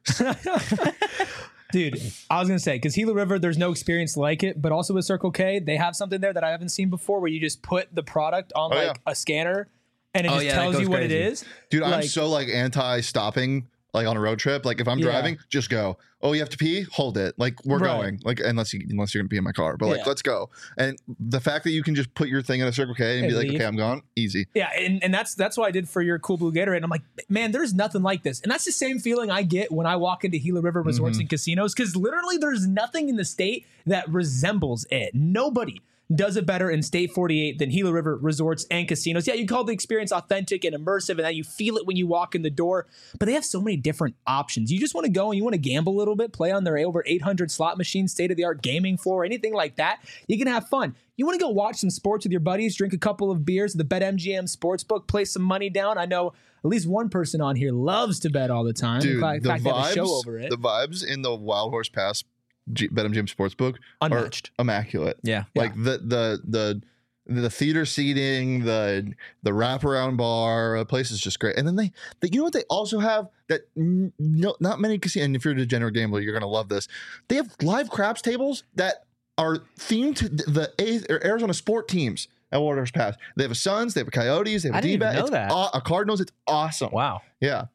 Speaker 3: dude? I was gonna say because Gila River, there's no experience like it, but also with Circle K, they have something there that I haven't seen before, where you just put the product on
Speaker 2: Oh,
Speaker 3: like
Speaker 2: yeah.
Speaker 3: a scanner, and it
Speaker 1: Oh,
Speaker 3: just
Speaker 1: yeah, that
Speaker 3: tells
Speaker 1: goes
Speaker 3: you what it
Speaker 1: crazy.
Speaker 3: is.
Speaker 2: Dude, I'm
Speaker 3: Like-
Speaker 2: so like anti-stopping like on a road trip. Like if I'm
Speaker 3: Yeah.
Speaker 2: driving, just go. Oh, you have to pee? Hold it. Like we're
Speaker 3: Right.
Speaker 2: going. Like unless you unless you're gonna pee in my car. But like
Speaker 3: Yeah.
Speaker 2: let's go. And the fact that you can just put your thing in a Circle K and
Speaker 3: And
Speaker 2: be like,
Speaker 3: leave.
Speaker 2: okay, I'm gone. Easy.
Speaker 3: Yeah, and, and that's that's what I did for your cool blue Gatorade. And I'm like, man, there's nothing like this. And that's the same feeling I get when I walk into Gila River Resorts
Speaker 2: Mm-hmm.
Speaker 3: and Casinos, because literally there's nothing in the state that resembles it. Nobody does it better in State forty-eight than Gila River Resorts and Casinos. Yeah, you call the experience authentic and immersive, and that you feel it when you walk in the door. But they have so many different options. You just want to go and you want to gamble a little bit, play on their over eight hundred slot machines, state-of-the-art gaming floor, anything like that. You can have fun. You want to go watch some sports with your buddies, drink a couple of beers at the BetMGM Sportsbook, play some money down. I know at least one person on here loves to bet all the time.
Speaker 2: Dude,
Speaker 3: in fact,
Speaker 2: the
Speaker 3: they have a show
Speaker 2: vibes,
Speaker 3: over it.
Speaker 2: the vibes in the Wild Horse Pass G- BetMGM Sportsbook
Speaker 3: Unmatched.
Speaker 2: are immaculate.
Speaker 1: Yeah.
Speaker 2: Like the the the the theater seating, the the wraparound bar, the place is just great. And then they, they you know what they also have that n- no, not many casinos. And if you're a degenerate gambler, you're gonna love this. They have live craps tables that are themed to the A- or Arizona sport teams at Wild Horse Pass. They have a Suns, they have a Coyotes, they have
Speaker 1: I
Speaker 2: a
Speaker 1: didn't even
Speaker 2: D-bat,
Speaker 1: know
Speaker 2: it's
Speaker 1: that.
Speaker 2: aw- a Cardinals. It's awesome.
Speaker 1: Wow.
Speaker 2: Yeah.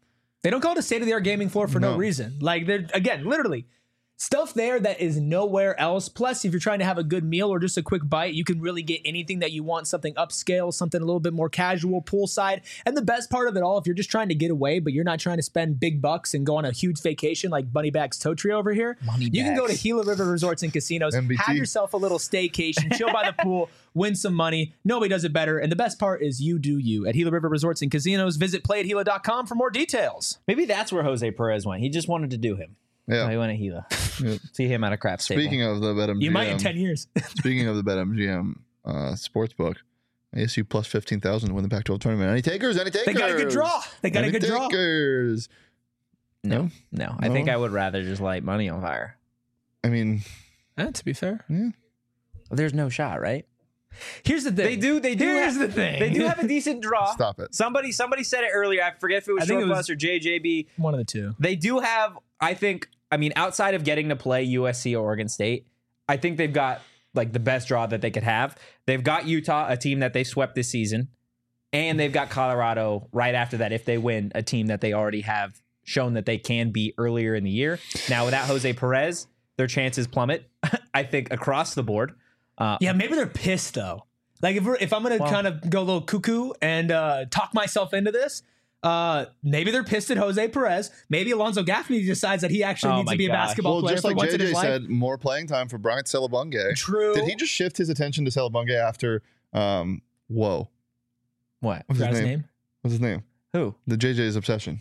Speaker 3: They don't call it a state-of-the-art gaming floor for no,
Speaker 2: No.
Speaker 3: reason. Like, they're, again, literally, stuff there that is nowhere else. Plus, if you're trying to have a good meal or just a quick bite, you can really get anything that you want, something upscale, something a little bit more casual, poolside. And the best part of it all, if you're just trying to get away, but you're not trying to spend big bucks and go on a huge vacation like Moneybags Toe Tree over here,
Speaker 1: Money
Speaker 3: you can go to
Speaker 1: bags.
Speaker 3: Gila River Resorts and Casinos,
Speaker 2: M B T.
Speaker 3: have yourself a little staycation, chill by the pool, win some money. Nobody does it better. And the best part is you do you. At Gila River Resorts and Casinos, visit play at gila dot com for more details.
Speaker 1: Maybe that's where Jose Perez went. He just wanted to do him.
Speaker 2: Yeah.
Speaker 1: So he went to Gila.
Speaker 2: Yeah.
Speaker 1: See him at a crap stable.
Speaker 2: Speaking of the BetMGM,
Speaker 3: You might in ten years.
Speaker 2: speaking of the BetMGM uh, sportsbook, A S U plus fifteen thousand to win the Pac twelve tournament. Any takers? Any takers?
Speaker 3: They got a good draw. They got
Speaker 2: Any
Speaker 3: a good draw.
Speaker 2: takers?
Speaker 1: no, no, I
Speaker 2: No?
Speaker 1: think I would rather just light money on fire.
Speaker 2: I mean,
Speaker 3: Eh, to be fair.
Speaker 1: There's no shot, right?
Speaker 3: Here's the thing.
Speaker 1: They do. They do.
Speaker 3: Here's
Speaker 1: have,
Speaker 3: the thing.
Speaker 1: They do have a decent draw.
Speaker 2: stop it.
Speaker 1: Somebody, somebody said it earlier. I forget if it was
Speaker 3: I think
Speaker 1: Short
Speaker 3: it was-
Speaker 1: Bus or J J B.
Speaker 3: One of the two.
Speaker 1: They do have. I think. I mean, outside of getting to play U S C or Oregon State, I think they've got like the best draw that they could have. They've got Utah, a team that they swept this season, and they've got Colorado right after that. If they win, a team that they already have shown that they can beat earlier in the year. Now, without Jose Perez, their chances plummet. I think across the board. Uh,
Speaker 3: Yeah, maybe they're pissed though. Like if we're, if I'm gonna
Speaker 1: Well-
Speaker 3: kind of go a little cuckoo and uh, talk myself into this, uh, maybe they're pissed at Jose Perez. Maybe Alonzo Gaffney decides that he actually
Speaker 1: Oh
Speaker 3: needs
Speaker 1: my
Speaker 3: to be a
Speaker 1: gosh.
Speaker 3: basketball
Speaker 2: Well,
Speaker 3: player
Speaker 2: just
Speaker 3: for
Speaker 2: like
Speaker 3: once in
Speaker 2: J J
Speaker 3: his life.
Speaker 2: said, more playing time for Bryant Celebunge.
Speaker 3: True.
Speaker 2: Did he just shift his attention to Celebunge after? Um, whoa,
Speaker 1: what?
Speaker 2: what's
Speaker 3: Forgot
Speaker 2: his
Speaker 3: his
Speaker 2: name?
Speaker 3: name?
Speaker 2: What's his name?
Speaker 1: Who?
Speaker 2: The J J's obsession.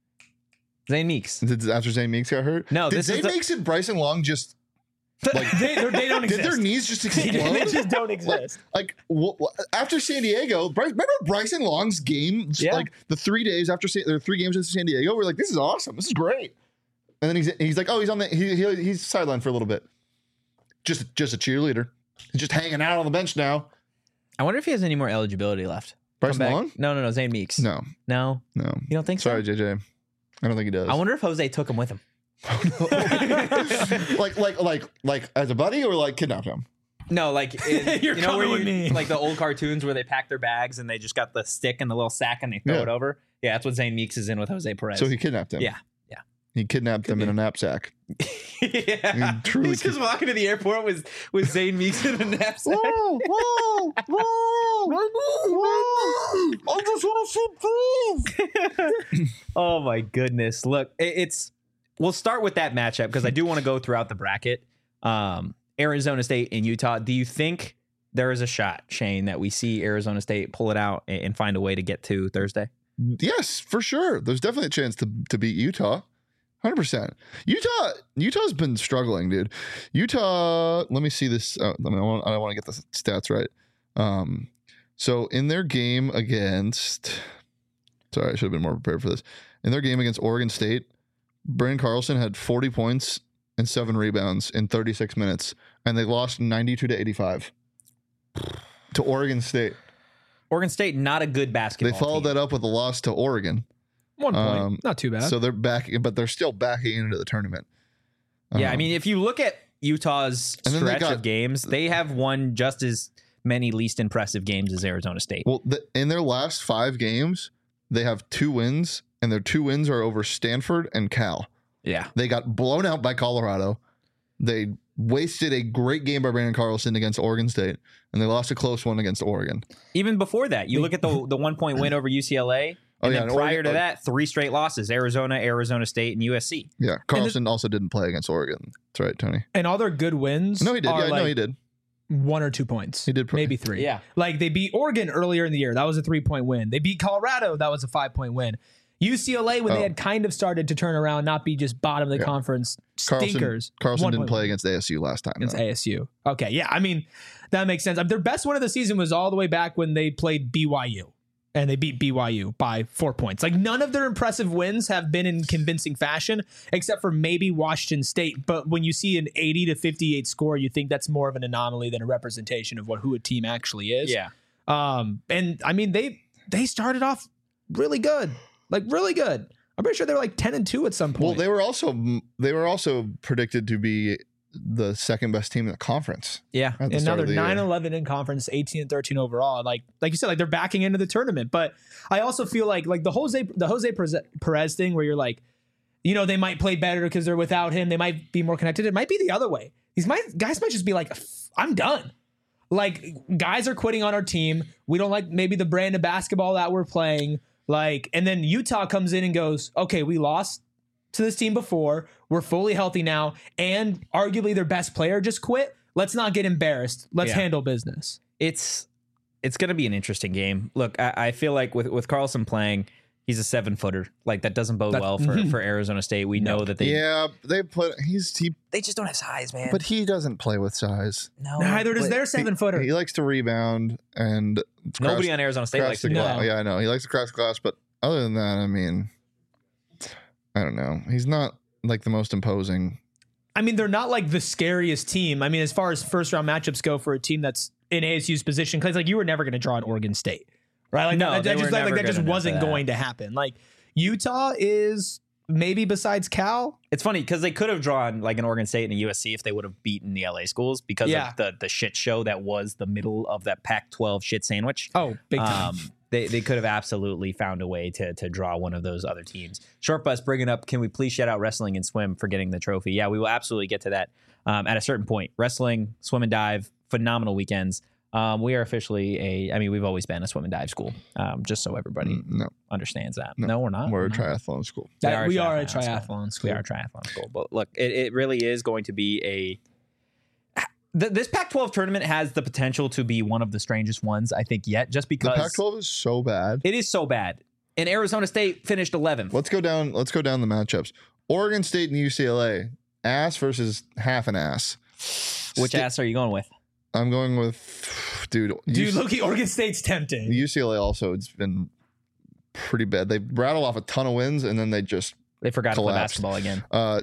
Speaker 1: Zane Meeks.
Speaker 2: Did after Zane Meeks got hurt?
Speaker 1: No,
Speaker 2: Did
Speaker 1: this is
Speaker 2: Zane
Speaker 1: the-
Speaker 2: Meeks and Bryson Long just like?
Speaker 3: They, they're- they don't
Speaker 2: Did
Speaker 3: exist.
Speaker 2: their knees just
Speaker 3: they
Speaker 2: explode?
Speaker 3: just don't exist.
Speaker 2: Like wh- wh- after San Diego, Bryce, remember Bryson Long's game?
Speaker 1: Yeah.
Speaker 2: Like the three days after San, there were three games in San Diego. We're like, this is awesome. This is great. And then he's he's like, oh, he's on the he, he he's sidelined for a little bit. Just just a cheerleader. He's just hanging out on the bench now.
Speaker 1: I wonder if he has any more eligibility left.
Speaker 2: Bryson
Speaker 1: Come back.
Speaker 2: Long?
Speaker 1: No, no, no. Zane Meeks.
Speaker 2: No,
Speaker 1: No.
Speaker 2: no.
Speaker 1: You don't think so?
Speaker 2: Sorry, J J. I don't think he does.
Speaker 1: I wonder if Jose took him with him.
Speaker 2: like like like like as a buddy or like kidnapped him.
Speaker 1: No, like in,
Speaker 3: You're
Speaker 1: you know where
Speaker 3: coming with
Speaker 1: you,
Speaker 3: me.
Speaker 1: like the old cartoons where they pack their bags and they just got the stick and the little sack and they throw
Speaker 2: Yeah.
Speaker 1: it over. Yeah, that's what Zane Meeks is in with Jose Perez.
Speaker 2: So he kidnapped him.
Speaker 1: Yeah, yeah.
Speaker 2: He kidnapped him in a knapsack.
Speaker 1: yeah,
Speaker 2: He truly
Speaker 1: he's just walking to the airport with with Zane Meeks in a knapsack.
Speaker 2: Whoa, whoa, whoa, whoa. I just want to see proof.
Speaker 1: Oh my goodness! Look, it, it's we'll start with that matchup because I do want to go throughout the bracket. Um, Arizona State and Utah. Do you think there is a shot, Shane, that we see Arizona State pull it out and, and find a way to get to Thursday?
Speaker 2: Yes, for sure. There's definitely a chance to to beat Utah. one hundred percent. Utah Utah's been struggling, dude. Utah, let me see this. Uh, I, mean, I, want, I want to get the stats right. Um, so in their game against, sorry, I should have been more prepared for this. In their game against Oregon State, Brandon Carlson had forty points and seven rebounds in thirty-six minutes, and they lost ninety-two to eighty-five to Oregon State.
Speaker 1: Oregon State, not a good basketball.
Speaker 2: They followed
Speaker 1: team.
Speaker 2: that up with a loss to Oregon.
Speaker 3: One point.
Speaker 2: Um,
Speaker 3: Not too bad.
Speaker 2: So they're back, but they're still backing into the tournament.
Speaker 1: Yeah, I
Speaker 2: Um,
Speaker 1: mean, if you look at Utah's
Speaker 2: And then they
Speaker 1: stretch
Speaker 2: got-
Speaker 1: of games, they have won just as many least impressive games as Arizona State.
Speaker 2: well, the, in their last five games, they have two wins, and their two wins are over Stanford and Cal.
Speaker 1: Yeah.
Speaker 2: They got blown out by Colorado. They wasted a great game by Brandon Carlson against Oregon State, and they lost a close one against Oregon.
Speaker 1: Even before that, you look at the the one point win over U C L A,
Speaker 2: Oh,
Speaker 1: and
Speaker 2: yeah,
Speaker 1: then
Speaker 2: and
Speaker 1: prior
Speaker 2: Oregon-
Speaker 1: to
Speaker 2: oh.
Speaker 1: that, three straight losses: Arizona, Arizona State, and U S C.
Speaker 2: Yeah, Carlson also didn't play against Oregon. That's right, Tony.
Speaker 3: and all their good wins.
Speaker 2: No, he did.
Speaker 3: Are
Speaker 2: Yeah,
Speaker 3: like
Speaker 2: no, he did.
Speaker 3: one or two points.
Speaker 2: He did play.
Speaker 3: Maybe three.
Speaker 1: Yeah.
Speaker 3: Like they beat Oregon earlier in the year. That was a three point win. They beat Colorado. That was a five point win. U C L A, when
Speaker 2: Oh.
Speaker 3: they had kind of started to turn around, not be just bottom of the
Speaker 2: Yeah.
Speaker 3: conference
Speaker 2: Carlson,
Speaker 3: stinkers.
Speaker 2: Carlson
Speaker 3: one
Speaker 2: didn't
Speaker 3: point
Speaker 2: play
Speaker 3: win
Speaker 2: against A S U last time.
Speaker 3: against
Speaker 2: though.
Speaker 3: A S U. Okay, yeah. I mean, that makes sense. I mean, their best win of the season was all the way back when they played B Y U. And they beat B Y U by four points. Like none of their impressive wins have been in convincing fashion, except for maybe Washington State. But when you see an eighty to fifty-eight score, you think that's more of an anomaly than a representation of what who a team actually is.
Speaker 1: Yeah.
Speaker 3: Um. And I mean, they they started off really good, like really good. I'm pretty sure they were like ten and two at some point.
Speaker 2: Well, they were also they were also predicted to be the second best team in the conference.
Speaker 1: Yeah.
Speaker 2: At the
Speaker 3: And now
Speaker 2: start
Speaker 3: they're
Speaker 2: of the
Speaker 3: nine
Speaker 2: year.
Speaker 3: eleven in conference, eighteen and thirteen overall. Like like you said, like they're backing into the tournament. But I also feel like like the Jose the Jose Perez- Perez thing where you're like, you know, they might play better because they're without him. They might be more connected. It might be the other way. These might guys might just be like, I'm done. Like guys are quitting on our team. We don't like maybe the brand of basketball that we're playing. Like, and then Utah comes in and goes, okay, we lost to this team before. We're fully healthy now. And arguably their best player just quit. Let's not get embarrassed. Let's
Speaker 1: Yeah.
Speaker 3: handle business.
Speaker 1: It's it's going to be an interesting game. Look, I, I feel like with, with Carlson playing, he's a seven footer. Like that doesn't bode
Speaker 3: That-
Speaker 1: well for, for Arizona State. We know that they
Speaker 2: Yeah, they put he's he,
Speaker 1: they just don't have size, man.
Speaker 2: but he doesn't play with size.
Speaker 1: no,
Speaker 3: Neither does
Speaker 1: but
Speaker 3: their seven footer.
Speaker 2: He likes to rebound and
Speaker 1: nobody
Speaker 2: crash-
Speaker 1: on Arizona State
Speaker 2: crash
Speaker 1: likes
Speaker 2: the
Speaker 1: to do
Speaker 2: glass.
Speaker 3: No.
Speaker 2: Yeah, I know he likes to crash the glass, but other than that, I mean, I don't know. He's not like the most imposing.
Speaker 3: I mean, they're not like the scariest team. I mean, as far as first round matchups go for a team that's in A S U's position, because like you were never going to draw an Oregon State, right? Like
Speaker 1: No,
Speaker 3: that,
Speaker 1: they
Speaker 3: that
Speaker 1: were
Speaker 3: just like, like
Speaker 1: never
Speaker 3: that just
Speaker 1: good enough
Speaker 3: wasn't
Speaker 1: for that.
Speaker 3: going to happen. Like Utah is maybe besides Cal.
Speaker 1: It's funny because they could have drawn like an Oregon State and a U S C if they would have beaten the L A schools because
Speaker 3: Yeah.
Speaker 1: of the the shit show that was the middle of that Pac twelve shit sandwich.
Speaker 3: Oh, big time.
Speaker 1: Um, they they could have absolutely found a way to to draw one of those other teams. Short Bus bringing up, can we please shout out wrestling and swim for getting the trophy? Yeah, we will absolutely get to that um, at a certain point. Wrestling, swim and dive, phenomenal weekends. Um, we are officially a, I mean, we've always been a swim and dive school, um, just so everybody
Speaker 2: Mm, No,
Speaker 1: understands that.
Speaker 2: No.
Speaker 1: No, we're not.
Speaker 2: we're a
Speaker 1: not.
Speaker 2: triathlon school.
Speaker 3: That- we are a
Speaker 1: school.
Speaker 3: triathlon school.
Speaker 1: We are a triathlon school. But look, it, it really is going to be a. Th- this Pac twelve tournament has the potential to be one of the strangest ones, I think, yet, just
Speaker 2: The
Speaker 1: because
Speaker 2: Pac twelve is so bad.
Speaker 1: it is so bad. And Arizona State finished eleventh.
Speaker 2: Let's go down. Let's go down the matchups. Oregon State and U C L A. Ass versus half an ass.
Speaker 1: Which
Speaker 2: Sta-
Speaker 1: ass are you going with?
Speaker 2: I'm going with, dude.
Speaker 3: Dude,
Speaker 2: U-
Speaker 3: Loki, Oregon State's tempting.
Speaker 2: U C L A also. It's been pretty bad. They rattle off a ton of wins and then they just
Speaker 1: They forgot to play
Speaker 2: Collapsed.
Speaker 1: basketball again.
Speaker 2: uh,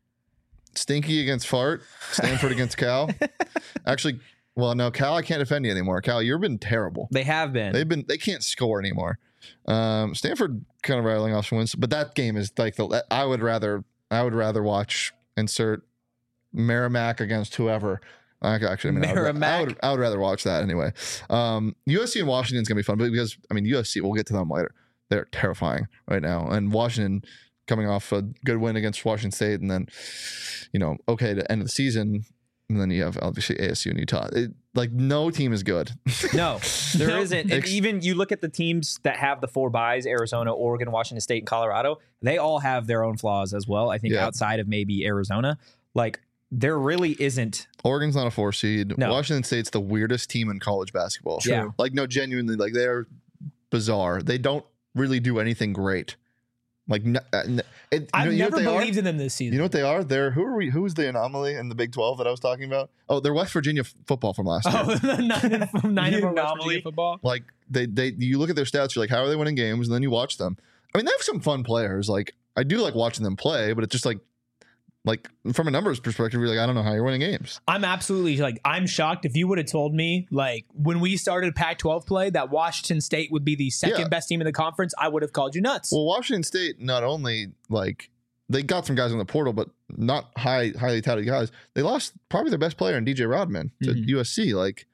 Speaker 2: Stinky against Fart. Stanford against Cal. Actually, well, no, Cal. I can't defend you anymore. Cal, you've been terrible.
Speaker 1: They have been.
Speaker 2: They've been. They can't score anymore. Um, Stanford kind of rattling off some wins, but that game is like the. I would rather. I would rather watch insert Merrimack against whoever. I could actually, I mean, I would, I
Speaker 1: Merrimack.
Speaker 2: would, I would rather watch that anyway. Um, U S C and Washington's gonna be fun, but because I mean, U S C. We'll get to them later. They're terrifying right now, and Washington coming off a good win against Washington State, and then you know, okay, to end of the season, and then you have obviously A S U and Utah. It, like no team is good.
Speaker 1: No, there
Speaker 3: No.
Speaker 1: isn't. And
Speaker 2: Ex-
Speaker 1: even you look at the teams that have the four buys, Arizona, Oregon, Washington State, and Colorado, they all have their own flaws as well. I think
Speaker 2: Yeah.
Speaker 1: outside of maybe Arizona, like there really isn't.
Speaker 2: Oregon's not a four seed.
Speaker 1: No.
Speaker 2: Washington State's the weirdest team in college basketball.
Speaker 1: True. Yeah.
Speaker 2: Like no, genuinely, like they're bizarre. They don't really do anything great. Like n- uh, n- it, you
Speaker 3: I've
Speaker 2: know, you know
Speaker 3: never
Speaker 2: what they
Speaker 3: believed
Speaker 2: are?
Speaker 3: in them this season.
Speaker 2: You know what they are? They're who are we? Who's the anomaly in the Big twelve that I was talking about? Oh, they're West Virginia f- football from last year.
Speaker 3: Oh, nine, nine
Speaker 1: The
Speaker 3: of our West
Speaker 1: anomaly.
Speaker 3: Virginia football.
Speaker 2: Like they they you look at their stats, you're like, how are they winning games? And then you watch them. I mean, they have some fun players. Like I do like watching them play, but it's just like like from a numbers perspective, you're like, I don't know how you're winning games.
Speaker 3: I'm absolutely like I'm shocked. If you would have told me like when we started Pac twelve play that Washington State would be the second
Speaker 2: Yeah.
Speaker 3: best team in the conference, I would have called you nuts.
Speaker 2: Well, Washington State not only like they got some guys in the portal, but not high highly touted guys. They lost probably their best player in D J Rodman to
Speaker 3: Mhm.
Speaker 2: U S C. Like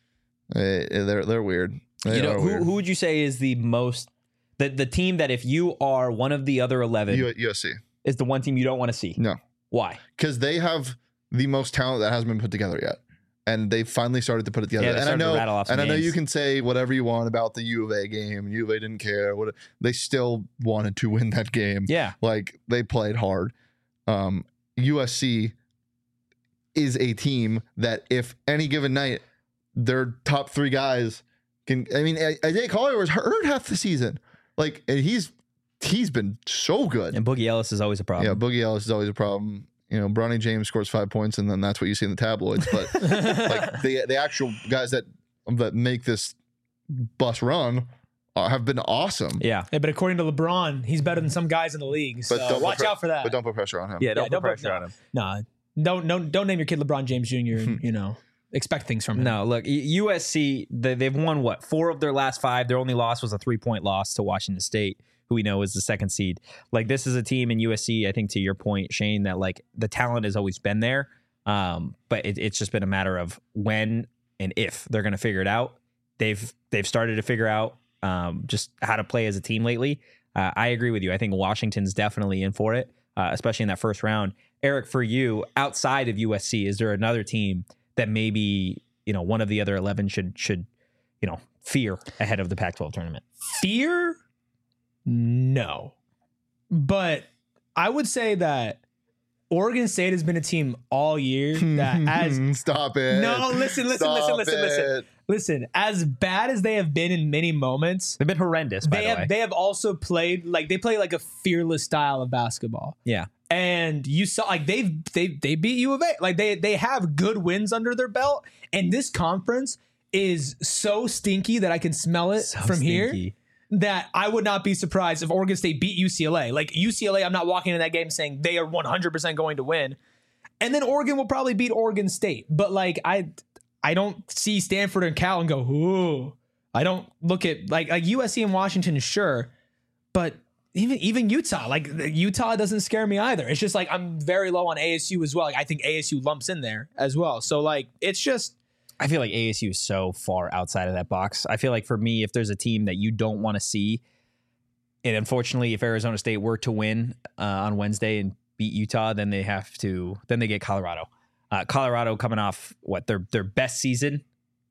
Speaker 2: eh, they're they're weird. They
Speaker 1: you know,
Speaker 2: are
Speaker 1: who,
Speaker 2: weird.
Speaker 1: who would you say is the most the the team that if you are one of the other eleven
Speaker 2: U- USC
Speaker 1: is the one team you don't want to see?
Speaker 2: No.
Speaker 1: Why?
Speaker 2: because they have the most talent that hasn't been put together yet. And they finally started to put it together.
Speaker 1: Yeah, they
Speaker 2: and I
Speaker 1: started to
Speaker 2: know,
Speaker 1: rattle off some
Speaker 2: and I know
Speaker 1: names.
Speaker 2: you can say whatever you want about the U of A game. U of A didn't care. What they still wanted to win that game.
Speaker 1: Yeah.
Speaker 2: Like they played hard. Um, U S C is a team that if any given night their top three guys can, I mean, Isaiah Collier was hurt half the season. Like and he's he's been so good.
Speaker 1: And Boogie Ellis is always a problem.
Speaker 2: Yeah, Boogie Ellis is always a problem. You know, Bronny James scores five points, and then that's what you see in the tabloids. But like the the actual guys that that make this bus run uh, have been awesome.
Speaker 1: Yeah.
Speaker 3: Yeah, but according to LeBron, he's better than some guys in the league. So
Speaker 2: But don't
Speaker 3: watch
Speaker 2: put-
Speaker 3: out for that.
Speaker 2: But don't put pressure on him.
Speaker 1: Yeah, don't
Speaker 3: Yeah,
Speaker 1: put
Speaker 3: don't put-
Speaker 1: pressure
Speaker 3: no.
Speaker 1: on him.
Speaker 3: Nah, don't don't don't name your kid LeBron James Junior and you know expect things from him.
Speaker 1: No, look, U S C, they, they've won what? Four of their last five. Their only loss was a three point loss to Washington State, who we know is the second seed. Like, this is a team in U S C, I think to your point, Shane, that like the talent has always been there. Um, but it, it's just been a matter of when and if they're going to figure it out. They've they've started to figure out um, just how to play as a team lately. Uh, I agree with you. I think Washington's definitely in for it, uh, especially in that first round. Eric, for you, outside of U S C, is there another team that maybe, you know, one of the other eleven should should you know fear ahead of the Pac twelve tournament?
Speaker 3: Fear? No. But I would say that Oregon State has been a team all year that as
Speaker 2: stop it.
Speaker 3: No, listen, listen,
Speaker 2: Stop
Speaker 3: listen, listen,
Speaker 2: it.
Speaker 3: listen. Listen, as bad as they have been in many moments,
Speaker 1: They've been horrendous, by
Speaker 3: they
Speaker 1: the
Speaker 3: have
Speaker 1: way.
Speaker 3: they have also played like they play like a fearless style of basketball.
Speaker 1: Yeah.
Speaker 3: And you saw like they've they they beat U of A. Like they they have good wins under their belt. And this conference is so stinky that I can smell it
Speaker 1: So
Speaker 3: from here.
Speaker 1: stinky.
Speaker 3: That I would not be surprised if Oregon State beat U C L A. Like U C L A, I'm not walking into that game saying they are one hundred percent going to win. And then Oregon will probably beat Oregon State. But like I I don't see Stanford and Cal and go, ooh. I don't look at like like U S C and Washington, sure. But even even Utah, like Utah doesn't scare me either. It's just like I'm very low on A S U as well. Like I think A S U lumps in there as well. So like it's just
Speaker 1: I feel like A S U is so far outside of that box. I feel like for me, if there's a team that you don't want to see, and unfortunately, if Arizona State were to win uh, on Wednesday and beat Utah, then they have to, then they get Colorado. Uh, Colorado coming off what their their best season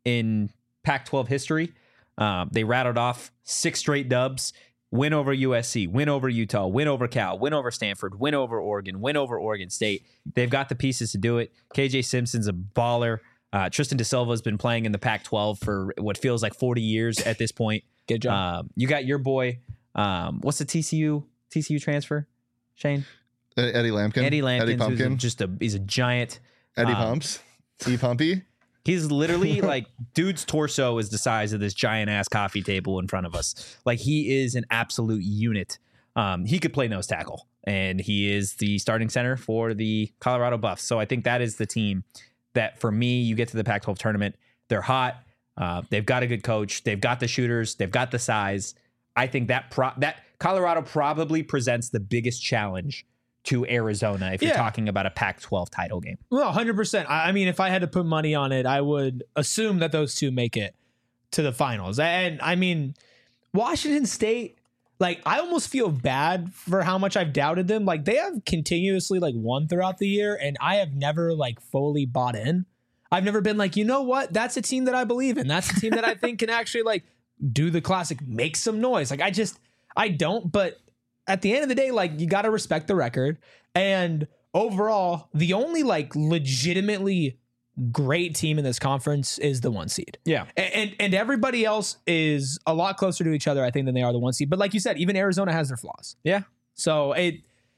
Speaker 1: in Pac twelve history. Um, they rattled off six straight dubs. Win over U S C, win over Utah, win over Cal, win over Stanford, win over Oregon, win over Oregon State. They've got the pieces to do it. K J Simpson's a baller. Uh, Tristan Da Silva has been playing in the Pac twelve for what feels like forty years at this point.
Speaker 3: good job.
Speaker 1: Um, you got your boy. Um, what's the T C U T C U transfer? Shane
Speaker 2: Eddie Lampkin.
Speaker 1: Eddie Lampkin,
Speaker 2: Eddie
Speaker 1: who's
Speaker 2: Pumpkin.
Speaker 1: just a he's a giant.
Speaker 2: Eddie
Speaker 1: um,
Speaker 2: Pumps. E Pumpy.
Speaker 1: He's literally like dude's torso is the size of this giant ass coffee table in front of us. Like he is an absolute unit. Um, he could play nose tackle, and he is the starting center for the Colorado Buffs. So I think that is the team that for me, you get to the Pac twelve tournament. They're hot. Uh, they've got a good coach. They've got the shooters. They've got the size. I think that pro- that Colorado probably presents the biggest challenge to Arizona if you're
Speaker 3: Yeah.
Speaker 1: talking about a Pac twelve title game.
Speaker 3: Well, one hundred percent. I I mean, if I had to put money on it, I would assume that those two make it to the finals. And I mean, Washington State, like, I almost feel bad for how much I've doubted them. Like, they have continuously, like, won throughout the year, and I have never, like, fully bought in. I've never been like, you know what? That's a team that I believe in. That's a team that I think can actually, like, do the classic, make some noise. Like, I just, I don't. But at the end of the day, like, you got to respect the record. And overall, the only, like, legitimately great team in this conference is the one seed.
Speaker 1: Yeah.
Speaker 3: And, and and everybody else is a lot closer to each other, I think, than they are the one seed. But like you said, even Arizona has their flaws.
Speaker 1: Yeah.
Speaker 3: So it,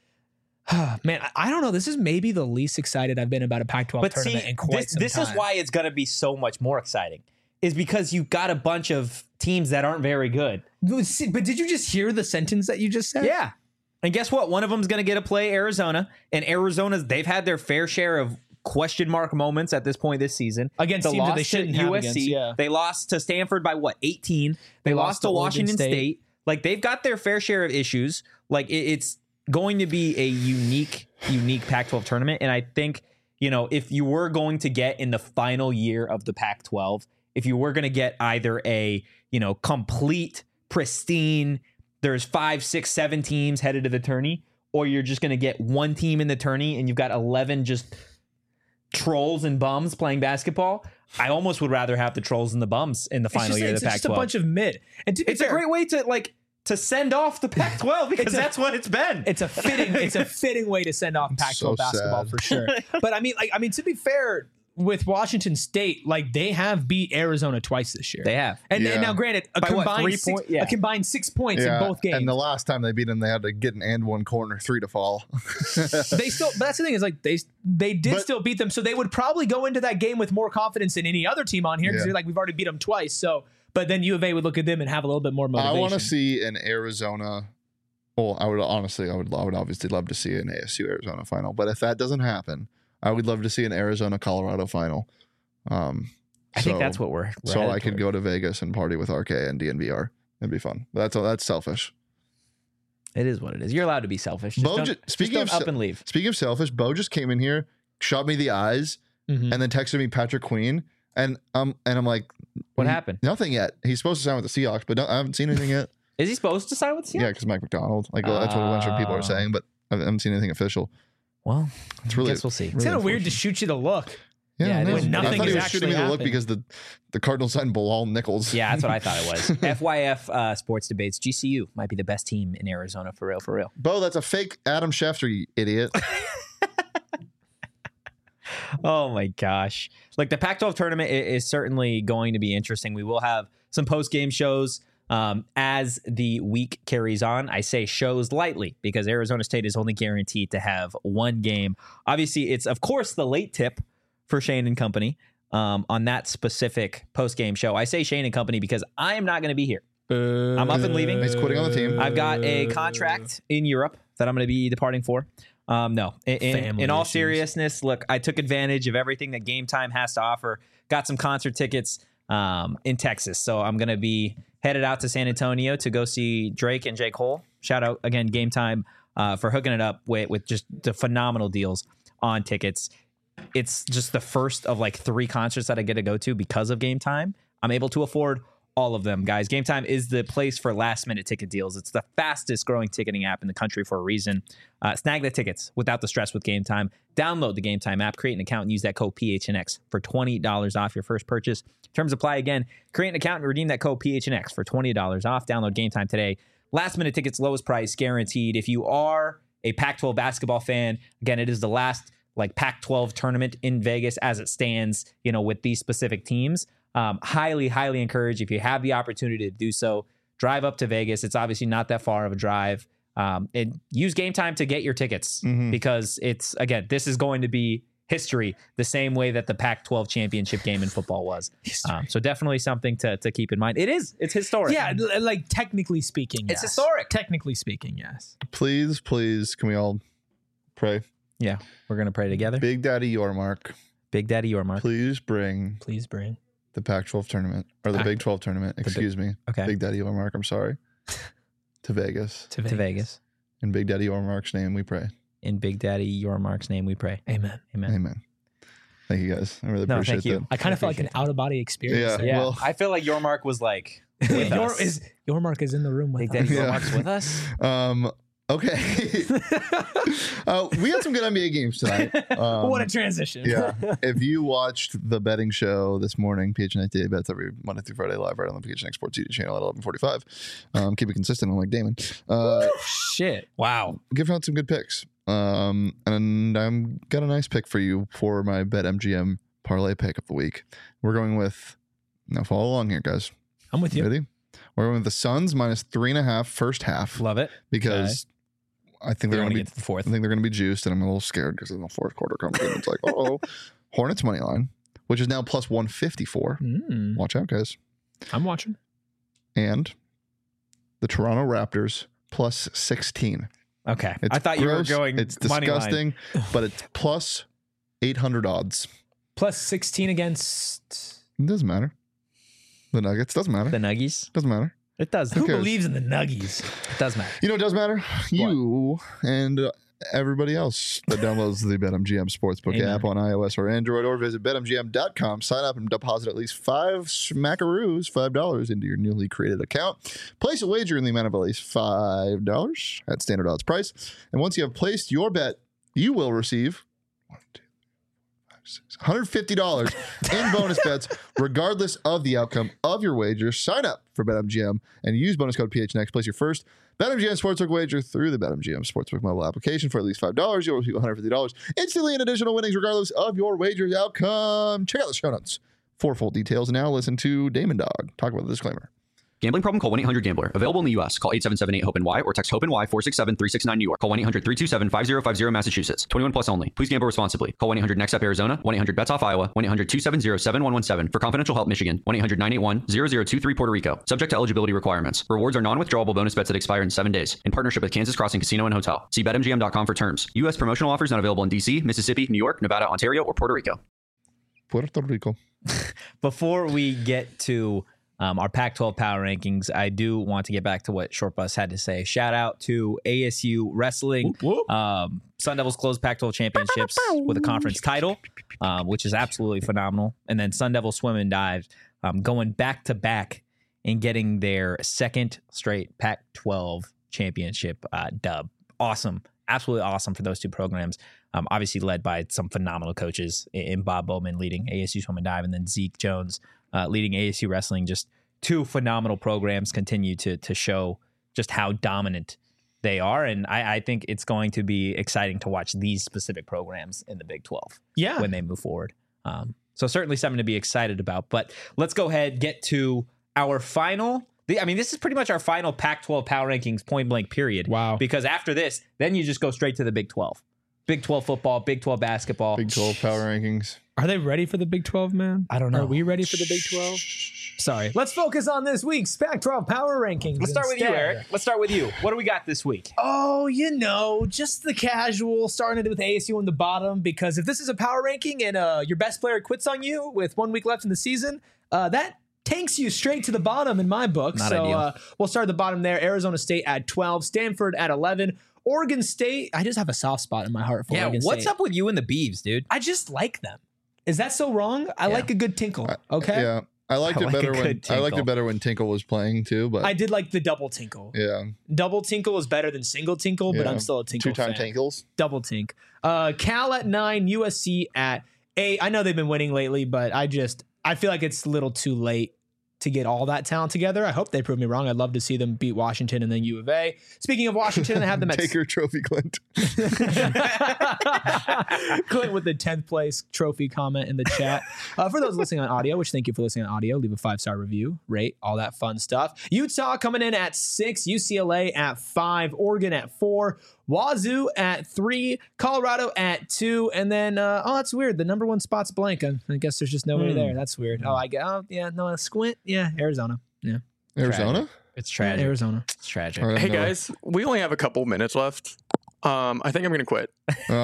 Speaker 3: man, I, I don't know. This is maybe the least excited I've been about a Pac twelve
Speaker 1: But
Speaker 3: tournament
Speaker 1: see,
Speaker 3: in quite
Speaker 1: this,
Speaker 3: some
Speaker 1: this
Speaker 3: time.
Speaker 1: is why it's going to be so much more exciting, is because you've got a bunch of teams that aren't very good.
Speaker 3: But did you just hear the sentence that you just said?
Speaker 1: Yeah. And guess what? One of them's going to get to play Arizona, and Arizona's, they've had their fair share of question mark moments at this point this season.
Speaker 3: Against
Speaker 1: the
Speaker 3: teams that
Speaker 1: loss
Speaker 3: they
Speaker 1: to
Speaker 3: shouldn't have
Speaker 1: U S C.
Speaker 3: against, yeah.
Speaker 1: They lost to Stanford by what, eighteen? They,
Speaker 3: They
Speaker 1: lost,
Speaker 3: lost
Speaker 1: to
Speaker 3: to Oregon
Speaker 1: Washington State.
Speaker 3: State.
Speaker 1: Like, they've got their fair share of issues. Like, it, it's going to be a unique, unique Pac twelve tournament. And I think, you know, if you were going to get in the final year of the Pac twelve, if you were going to get either a, you know, complete, pristine, there's five, six, seven teams headed to the tourney, or you're just going to get one team in the tourney and you've got eleven just trolls and bums playing basketball, I almost would rather have the trolls and the bums in the
Speaker 3: It's
Speaker 1: final
Speaker 3: just,
Speaker 1: year of
Speaker 3: it's
Speaker 1: the Pac
Speaker 3: just a
Speaker 1: twelve.
Speaker 3: bunch of mid. And to be
Speaker 1: It's a
Speaker 3: fair,
Speaker 1: great way to like to send off the Pac twelve because
Speaker 3: It's a-
Speaker 1: that's what it's been.
Speaker 3: It's a fitting, it's a fitting way to send off Pac twelve
Speaker 2: So
Speaker 3: basketball
Speaker 2: sad.
Speaker 3: for sure. But I mean, like, I mean, to be fair, with Washington State, like they have beat Arizona twice this year.
Speaker 1: They have.
Speaker 3: And,
Speaker 2: Yeah.
Speaker 3: and now, granted, a
Speaker 1: By what,
Speaker 3: combined
Speaker 1: three
Speaker 3: six,
Speaker 1: point- yeah.
Speaker 3: a combined six points
Speaker 2: Yeah,
Speaker 3: in both games.
Speaker 2: and the last time they beat them, they had to get an and one corner three to fall.
Speaker 3: they still, but that's the thing is like they they did
Speaker 2: But-
Speaker 3: still beat them, so they would probably go into that game with more confidence than any other team on here because
Speaker 2: Yeah.
Speaker 3: they're like we've already beat them twice. So, but then U of A would look at them and have a little bit more
Speaker 2: I
Speaker 3: motivation.
Speaker 2: want to see an Arizona. Well, I would honestly, I would, I would obviously love to see an A S U Arizona final. But if that doesn't happen, I would love to see an Arizona Colorado final. Um,
Speaker 1: I think
Speaker 2: so-
Speaker 1: that's what we're. we're
Speaker 2: so
Speaker 1: headed
Speaker 2: I could
Speaker 1: toward.
Speaker 2: go to Vegas and party with R K and D N V R. It'd be fun. That's that's selfish.
Speaker 1: It is what it is. You're allowed to be selfish. Just
Speaker 2: Bo
Speaker 1: don't,
Speaker 2: ju-
Speaker 1: just
Speaker 2: speaking
Speaker 1: don't
Speaker 2: of
Speaker 1: up
Speaker 2: se-
Speaker 1: and leave.
Speaker 2: Speaking of selfish, Bo just came in here shot me the eyes
Speaker 3: Mhm.
Speaker 2: and then texted me Patrick Queen. And um and I'm like,
Speaker 1: What
Speaker 2: "N-
Speaker 1: happened?
Speaker 2: Nothing yet. He's supposed to sign with the Seahawks, but no, I haven't seen anything yet.
Speaker 1: Is he supposed to sign with Seattle?
Speaker 2: Yeah, because Mike McDonald. Like well, that's what a bunch of people are
Speaker 1: Oh.
Speaker 2: saying, but I haven't seen anything official.
Speaker 1: Well,
Speaker 2: It's
Speaker 1: I
Speaker 2: really
Speaker 1: guess we'll see.
Speaker 3: It's
Speaker 2: really
Speaker 3: kind of weird to
Speaker 2: unfortunate.
Speaker 3: shoot you the look.
Speaker 2: Yeah,
Speaker 1: Yeah,
Speaker 2: I
Speaker 1: it
Speaker 2: know.
Speaker 1: is. When
Speaker 2: I
Speaker 3: nothing
Speaker 2: thought he
Speaker 3: is
Speaker 2: was shooting me
Speaker 3: actually
Speaker 2: the look
Speaker 3: happening.
Speaker 2: because the the Cardinals signed Bilal Nichols.
Speaker 1: Yeah, that's what I thought it was. F Y F uh, sports debates. G C U might be the best team in Arizona for real, for real.
Speaker 2: Bo, that's a fake Adam Schefter, you idiot.
Speaker 1: Oh my gosh. Like the Pac twelve tournament i- is certainly going to be interesting. We will have some post game shows um, as the week carries on. I say shows lightly because Arizona State is only guaranteed to have one game. Obviously, it's of course the late tip for Shane and company um, on that specific post game show. I say Shane and company because I am not going to be here. I'm up and leaving.
Speaker 2: He's quitting on the team.
Speaker 1: I've got a contract in Europe that I'm going to be departing for. Um, no, in, in,
Speaker 3: Family
Speaker 1: in all
Speaker 3: issues.
Speaker 1: seriousness, look, I took advantage of everything that Game Time has to offer. Got some concert tickets um, in Texas, so I'm going to be headed out to San Antonio to go see Drake and J. Cole. Shout out again, Game Time, uh, for hooking it up with, with just the phenomenal deals on tickets. It's just the first of like three concerts that I get to go to because of Game Time. I'm able to afford all of them, guys. Game Time is the place for last minute ticket deals. It's the fastest growing ticketing app in the country for a reason. Uh, snag the tickets without the stress with Game Time. Download the Game Time app, create an account, and use that code P H N X for twenty dollars off your first purchase. Terms apply again. Create an account and redeem that code P H N X for twenty dollars off. Download Game Time today. Last minute tickets, lowest price guaranteed. If you are a Pac twelve basketball fan, again, it is the last like Pac twelve tournament in Vegas as it stands, you know, with these specific teams. Um, highly, highly encourage if you have the opportunity to do so, drive up to Vegas. It's obviously not that far of a drive. Um, and use Game Time to get your tickets
Speaker 2: Mhm.
Speaker 1: because it's, again, this is going to be history the same way that the Pac twelve championship game in football was. Um, so definitely something to, to keep in mind. It is. It's historic.
Speaker 3: Yeah, l- like technically speaking,
Speaker 1: It's
Speaker 3: yes.
Speaker 1: historic.
Speaker 3: Technically speaking, yes.
Speaker 2: Please, please, can we all pray?
Speaker 1: Yeah. We're going to pray together. Big,
Speaker 2: Big Daddy Yormark,
Speaker 1: Daddy Yormark.
Speaker 2: please bring
Speaker 3: Please bring.
Speaker 2: the Pac twelve tournament or the
Speaker 1: Pac-
Speaker 2: Big twelve tournament.
Speaker 1: Big-
Speaker 2: Excuse me,
Speaker 1: Okay.
Speaker 2: Big Daddy Yormark. I'm sorry. To Vegas.
Speaker 3: To Vegas.
Speaker 1: to Vegas.
Speaker 2: In Big Daddy Yormark's name, we pray.
Speaker 1: In Big Daddy Yormark's name we pray.
Speaker 3: Amen.
Speaker 1: Amen.
Speaker 2: Amen. Thank you guys. I really
Speaker 1: No,
Speaker 2: appreciate
Speaker 1: thank you.
Speaker 2: that.
Speaker 3: I kind of felt like an out of body experience.
Speaker 2: Yeah.
Speaker 3: there.
Speaker 1: Yeah.
Speaker 2: Well-
Speaker 1: I feel like Yormark was like with
Speaker 3: your,
Speaker 1: us.
Speaker 3: is, your mark is in the room with
Speaker 1: Big
Speaker 3: us.
Speaker 1: Daddy
Speaker 2: Yeah.
Speaker 1: Yormark's with us.
Speaker 2: Um. Okay. uh, we had some good N B A games tonight. Um,
Speaker 3: what a transition.
Speaker 2: yeah. If you watched the betting show this morning, P H N X Daily Bets every Monday through Friday live right on the P H N X Sports YouTube channel at eleven forty-five. Um, keep it consistent, unlike Damon. Uh,
Speaker 3: Shit.
Speaker 1: Wow.
Speaker 2: giving out some good picks. Um, and I'm got a nice pick for you for my BetMGM parlay pick of the week. We're going with now follow along here, guys.
Speaker 3: I'm with you.
Speaker 2: Ready? We're going with the Suns minus three and a half first half
Speaker 1: Love it.
Speaker 2: because I think
Speaker 1: We
Speaker 2: they're
Speaker 1: want
Speaker 2: going
Speaker 1: to
Speaker 2: to
Speaker 1: get
Speaker 2: be
Speaker 1: to the fourth.
Speaker 2: I think they're going to be juiced, and I'm a little scared because in the fourth quarter comes in, it's like, oh, Hornets money line, which is now plus one fifty-four.
Speaker 3: Mm,
Speaker 2: Watch out, guys.
Speaker 3: I'm watching.
Speaker 2: And the Toronto Raptors plus sixteen.
Speaker 1: Okay.
Speaker 2: It's
Speaker 1: I thought you were
Speaker 2: gross,
Speaker 1: going
Speaker 2: It's
Speaker 1: money line.
Speaker 2: disgusting, but it's plus eight hundred odds.
Speaker 3: Plus sixteen against.
Speaker 2: It doesn't matter. The Nuggets doesn't matter.
Speaker 1: The Nuggies.
Speaker 2: Doesn't matter.
Speaker 1: It does.
Speaker 3: Who
Speaker 2: cares?
Speaker 3: believes in the Nuggies?
Speaker 1: It does matter.
Speaker 2: You know, it does matter. You and uh, everybody else that downloads the BetMGM Sportsbook
Speaker 1: Amen.
Speaker 2: app on iOS or Android, or visit bet M G M dot com. Sign up and deposit at least five smackaroos, five dollars into your newly created account. Place a wager in the amount of at least five dollars at standard odds price. And once you have placed your bet, you will receive one, two, five, six, one hundred fifty dollars in bonus bets, regardless of the outcome of your wager. Sign up for BetMGM and use bonus code P H N X. Place your first BetMGM Sportsbook wager through the BetMGM Sportsbook mobile application for at least five dollars. You'll receive one hundred fifty dollars instantly in additional winnings, regardless of your wager's outcome. Check out the show notes for full details. Now listen to Damon Dog talk about the disclaimer.
Speaker 4: Gambling problem? Call one eight hundred gambler. Available in the U S. Call eight seven seven eight hope N Y or text hope N Y four six seven three six nine New York. Call one eight hundred three two seven five zero five zero Massachusetts. twenty-one plus only. Please gamble responsibly. Call one eight hundred next up Arizona. one eight hundred bets off Iowa. one eight hundred two seven zero seven one one seven. For confidential help Michigan. one eight hundred nine eight one zero zero two three Puerto Rico. Subject to eligibility requirements. Rewards are non-withdrawable bonus bets that expire in seven days. In partnership with Kansas Crossing Casino and Hotel. See bet M G M dot com for terms. U S promotional offers not available in D C, Mississippi, New York, Nevada, Ontario, or Puerto Rico.
Speaker 2: Puerto Rico.
Speaker 1: Before we get to um, our Pac twelve power rankings, I do want to get back to what Short Bus had to say. Shout out to A S U Wrestling.
Speaker 3: Whoop, whoop.
Speaker 1: Um, Sun Devils closed Pac twelve championships with a conference title, um, which is absolutely phenomenal. And then Sun Devil Swim and Dive um, going back to back and getting their second straight Pac twelve championship uh, dub. Awesome. Absolutely awesome for those two programs. Um, obviously led by some phenomenal coaches in Bob Bowman leading A S U Swim and Dive, and then Zeke Jones uh, leading A S U Wrestling. Just two phenomenal programs continue to to show just how dominant they are. And I, I think it's going to be exciting to watch these specific programs in the Big twelve
Speaker 3: Yeah.
Speaker 1: when they move forward. Um, so certainly something to be excited about. But let's go ahead, get to our final. The, I mean, this is pretty much our final Pac twelve power rankings point blank period.
Speaker 3: Wow.
Speaker 1: Because after this, then you just go straight to the Big twelve. Big twelve football, Big twelve basketball.
Speaker 2: Big twelve power rankings.
Speaker 3: Are they ready for the Big twelve, man?
Speaker 1: I don't know.
Speaker 3: Are we ready for the Big twelve? Sorry. Let's focus on this week's Pac twelve power rankings.
Speaker 1: Let's start with you,
Speaker 3: instead.
Speaker 1: Eric. Let's start with you. What do we got this week?
Speaker 3: Oh, you know, just the casual, starting it with A S U on the bottom, because if this is a power ranking and uh, your best player quits on you with one week left in the season, uh, that tanks you straight to the bottom in my book.
Speaker 1: Not
Speaker 3: so
Speaker 1: ideal.
Speaker 3: Uh, we'll start at the bottom there. Arizona State at twelve, Stanford at eleven, Oregon State. I just have a soft spot in my heart for
Speaker 1: Yeah,
Speaker 3: Oregon
Speaker 1: what's
Speaker 3: State.
Speaker 1: up with you and the Beavs, dude?
Speaker 3: I just like them. Is that so wrong? I
Speaker 1: Yeah.
Speaker 3: like a good tinkle. Okay.
Speaker 2: Yeah, I liked
Speaker 1: I
Speaker 2: it
Speaker 1: like a
Speaker 2: better when
Speaker 1: good
Speaker 2: I liked
Speaker 1: tinkle.
Speaker 2: it better when Tinkle was playing too. But
Speaker 3: I did like the double tinkle.
Speaker 2: yeah,
Speaker 3: Double tinkle is better than single tinkle, but
Speaker 2: Yeah.
Speaker 3: I'm still a tinkle
Speaker 2: two-time
Speaker 3: fan.
Speaker 2: Tinkles.
Speaker 3: Double tink. Uh, Cal at nine, U S C at eight. I know they've been winning lately, but I just I feel like it's a little too late to get all that talent together. I hope they prove me wrong. I'd love to see them beat Washington and then U of A. Speaking of Washington, I have them at
Speaker 2: Take your trophy, Clint.
Speaker 3: Clint with the tenth place trophy comment in the chat. Uh, for those listening on audio, which thank you for listening on audio, leave a five star review, rate, all that fun stuff. Utah coming in at six, U C L A at five, Oregon at four, Wazoo at three, Colorado at two, and then uh, oh, that's weird. The number one spot's blank. I, I guess there's just nobody
Speaker 1: Hmm.
Speaker 3: there. That's weird. Oh, I get. Oh, yeah, no, squint. Yeah, Arizona. Yeah,
Speaker 2: Arizona.
Speaker 1: It's
Speaker 3: yeah,
Speaker 1: tragic.
Speaker 3: Arizona.
Speaker 1: It's tragic.
Speaker 2: All right,
Speaker 5: Hey
Speaker 2: no.
Speaker 5: guys, we only have a couple minutes left. Um, I think I'm gonna quit.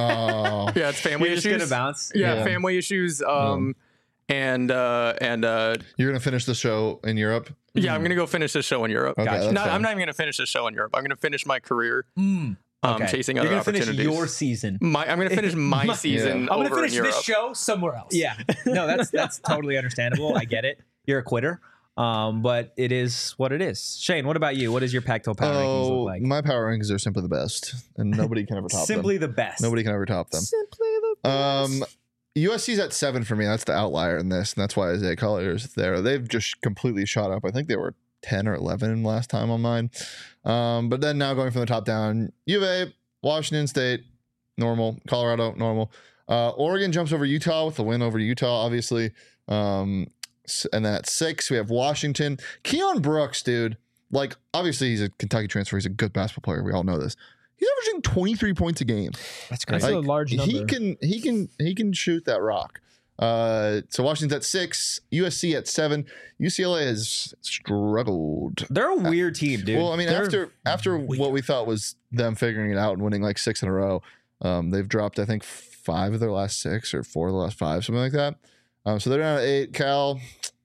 Speaker 2: Oh,
Speaker 5: Yeah, it's family
Speaker 1: You're just
Speaker 5: issues.
Speaker 1: gonna bounce.
Speaker 5: Yeah,
Speaker 2: Yeah.
Speaker 5: family issues. Um, and uh, and uh,
Speaker 2: you're gonna finish the show in Europe.
Speaker 5: yeah, I'm gonna go finish this show in Europe.
Speaker 2: Okay, that's
Speaker 5: No,
Speaker 2: fine.
Speaker 5: I'm not even gonna finish this show in Europe. I'm gonna finish my career.
Speaker 1: Mm.
Speaker 5: Um,
Speaker 1: Okay.
Speaker 5: chasing
Speaker 1: You're
Speaker 5: other
Speaker 1: gonna finish
Speaker 5: opportunities.
Speaker 1: your season.
Speaker 5: my, I'm gonna finish my
Speaker 3: My-
Speaker 5: season
Speaker 2: Yeah.
Speaker 3: I'm gonna
Speaker 5: over
Speaker 3: finish
Speaker 5: in Europe.
Speaker 3: this show somewhere else.
Speaker 1: Yeah. No, that's that's totally understandable. I get it. You're a quitter. Um, but it is what it is. Shane, what about you? What does your Pac twelve power rankings
Speaker 2: Oh,
Speaker 1: look like?
Speaker 2: my power rankings are simply the best, and nobody can ever top
Speaker 1: Simply
Speaker 2: them.
Speaker 1: the best.
Speaker 2: Nobody can ever top them.
Speaker 3: Simply the
Speaker 2: Um, U S C's at seven for me. That's the outlier in this, and that's why Isaiah Collier is there. They've just completely shot up. I think they were ten or eleven last time on mine. Um, but then now going from the top down, U of A, Washington State, normal. Colorado, normal. Uh, Oregon jumps over Utah with the win over Utah, obviously. Um, s- and then at six, we have Washington. Keon Brooks, dude. Like, obviously, he's a Kentucky transfer. He's a good basketball player. We all know this. He's averaging twenty-three points a game.
Speaker 1: That's
Speaker 3: That's
Speaker 1: crazy.
Speaker 3: a large number.
Speaker 2: He can he can he can shoot that rock. Uh, so Washington's at six, U S C at seven, U C L A has struggled.
Speaker 1: They're a weird team, dude.
Speaker 2: Well, I mean,
Speaker 3: They're
Speaker 2: after after
Speaker 3: weird.
Speaker 2: what we thought was them figuring it out and winning like six in a row, um, they've dropped I think five of their last six or four of the last five, something like that. Um, so they're down at eight. Cal,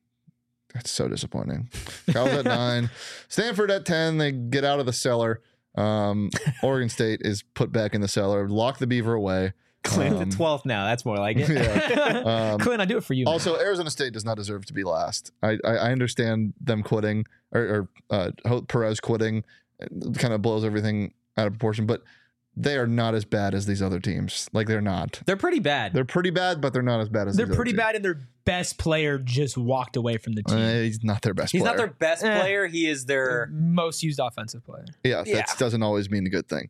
Speaker 2: that's so disappointing. Cal's at nine, Stanford at ten. They get out of the cellar. Um, Oregon State is put back in the cellar. Lock the Beaver away.
Speaker 1: Clint
Speaker 2: um,
Speaker 1: the twelfth now. That's more like it.
Speaker 2: Yeah. Um,
Speaker 3: Clint, I do it for you. man.
Speaker 2: Also, Arizona State does not deserve to be last. I I, I understand them quitting or, or uh, Ho- Perez quitting, kind of blows everything out of proportion. But they are not as bad as these other teams. Like they're not.
Speaker 1: They're pretty bad.
Speaker 2: They're pretty bad, but they're not as bad as
Speaker 3: they're
Speaker 2: these
Speaker 3: pretty
Speaker 2: other
Speaker 3: bad, and their best player just walked away from the
Speaker 2: teams.
Speaker 3: team.
Speaker 2: Uh, he's not their best.
Speaker 1: He's
Speaker 2: player.
Speaker 1: not their best
Speaker 3: Eh.
Speaker 1: player. He is
Speaker 3: Their
Speaker 1: their.
Speaker 3: most used offensive player.
Speaker 2: Yeah,
Speaker 1: Yeah.
Speaker 2: that doesn't always mean a good thing.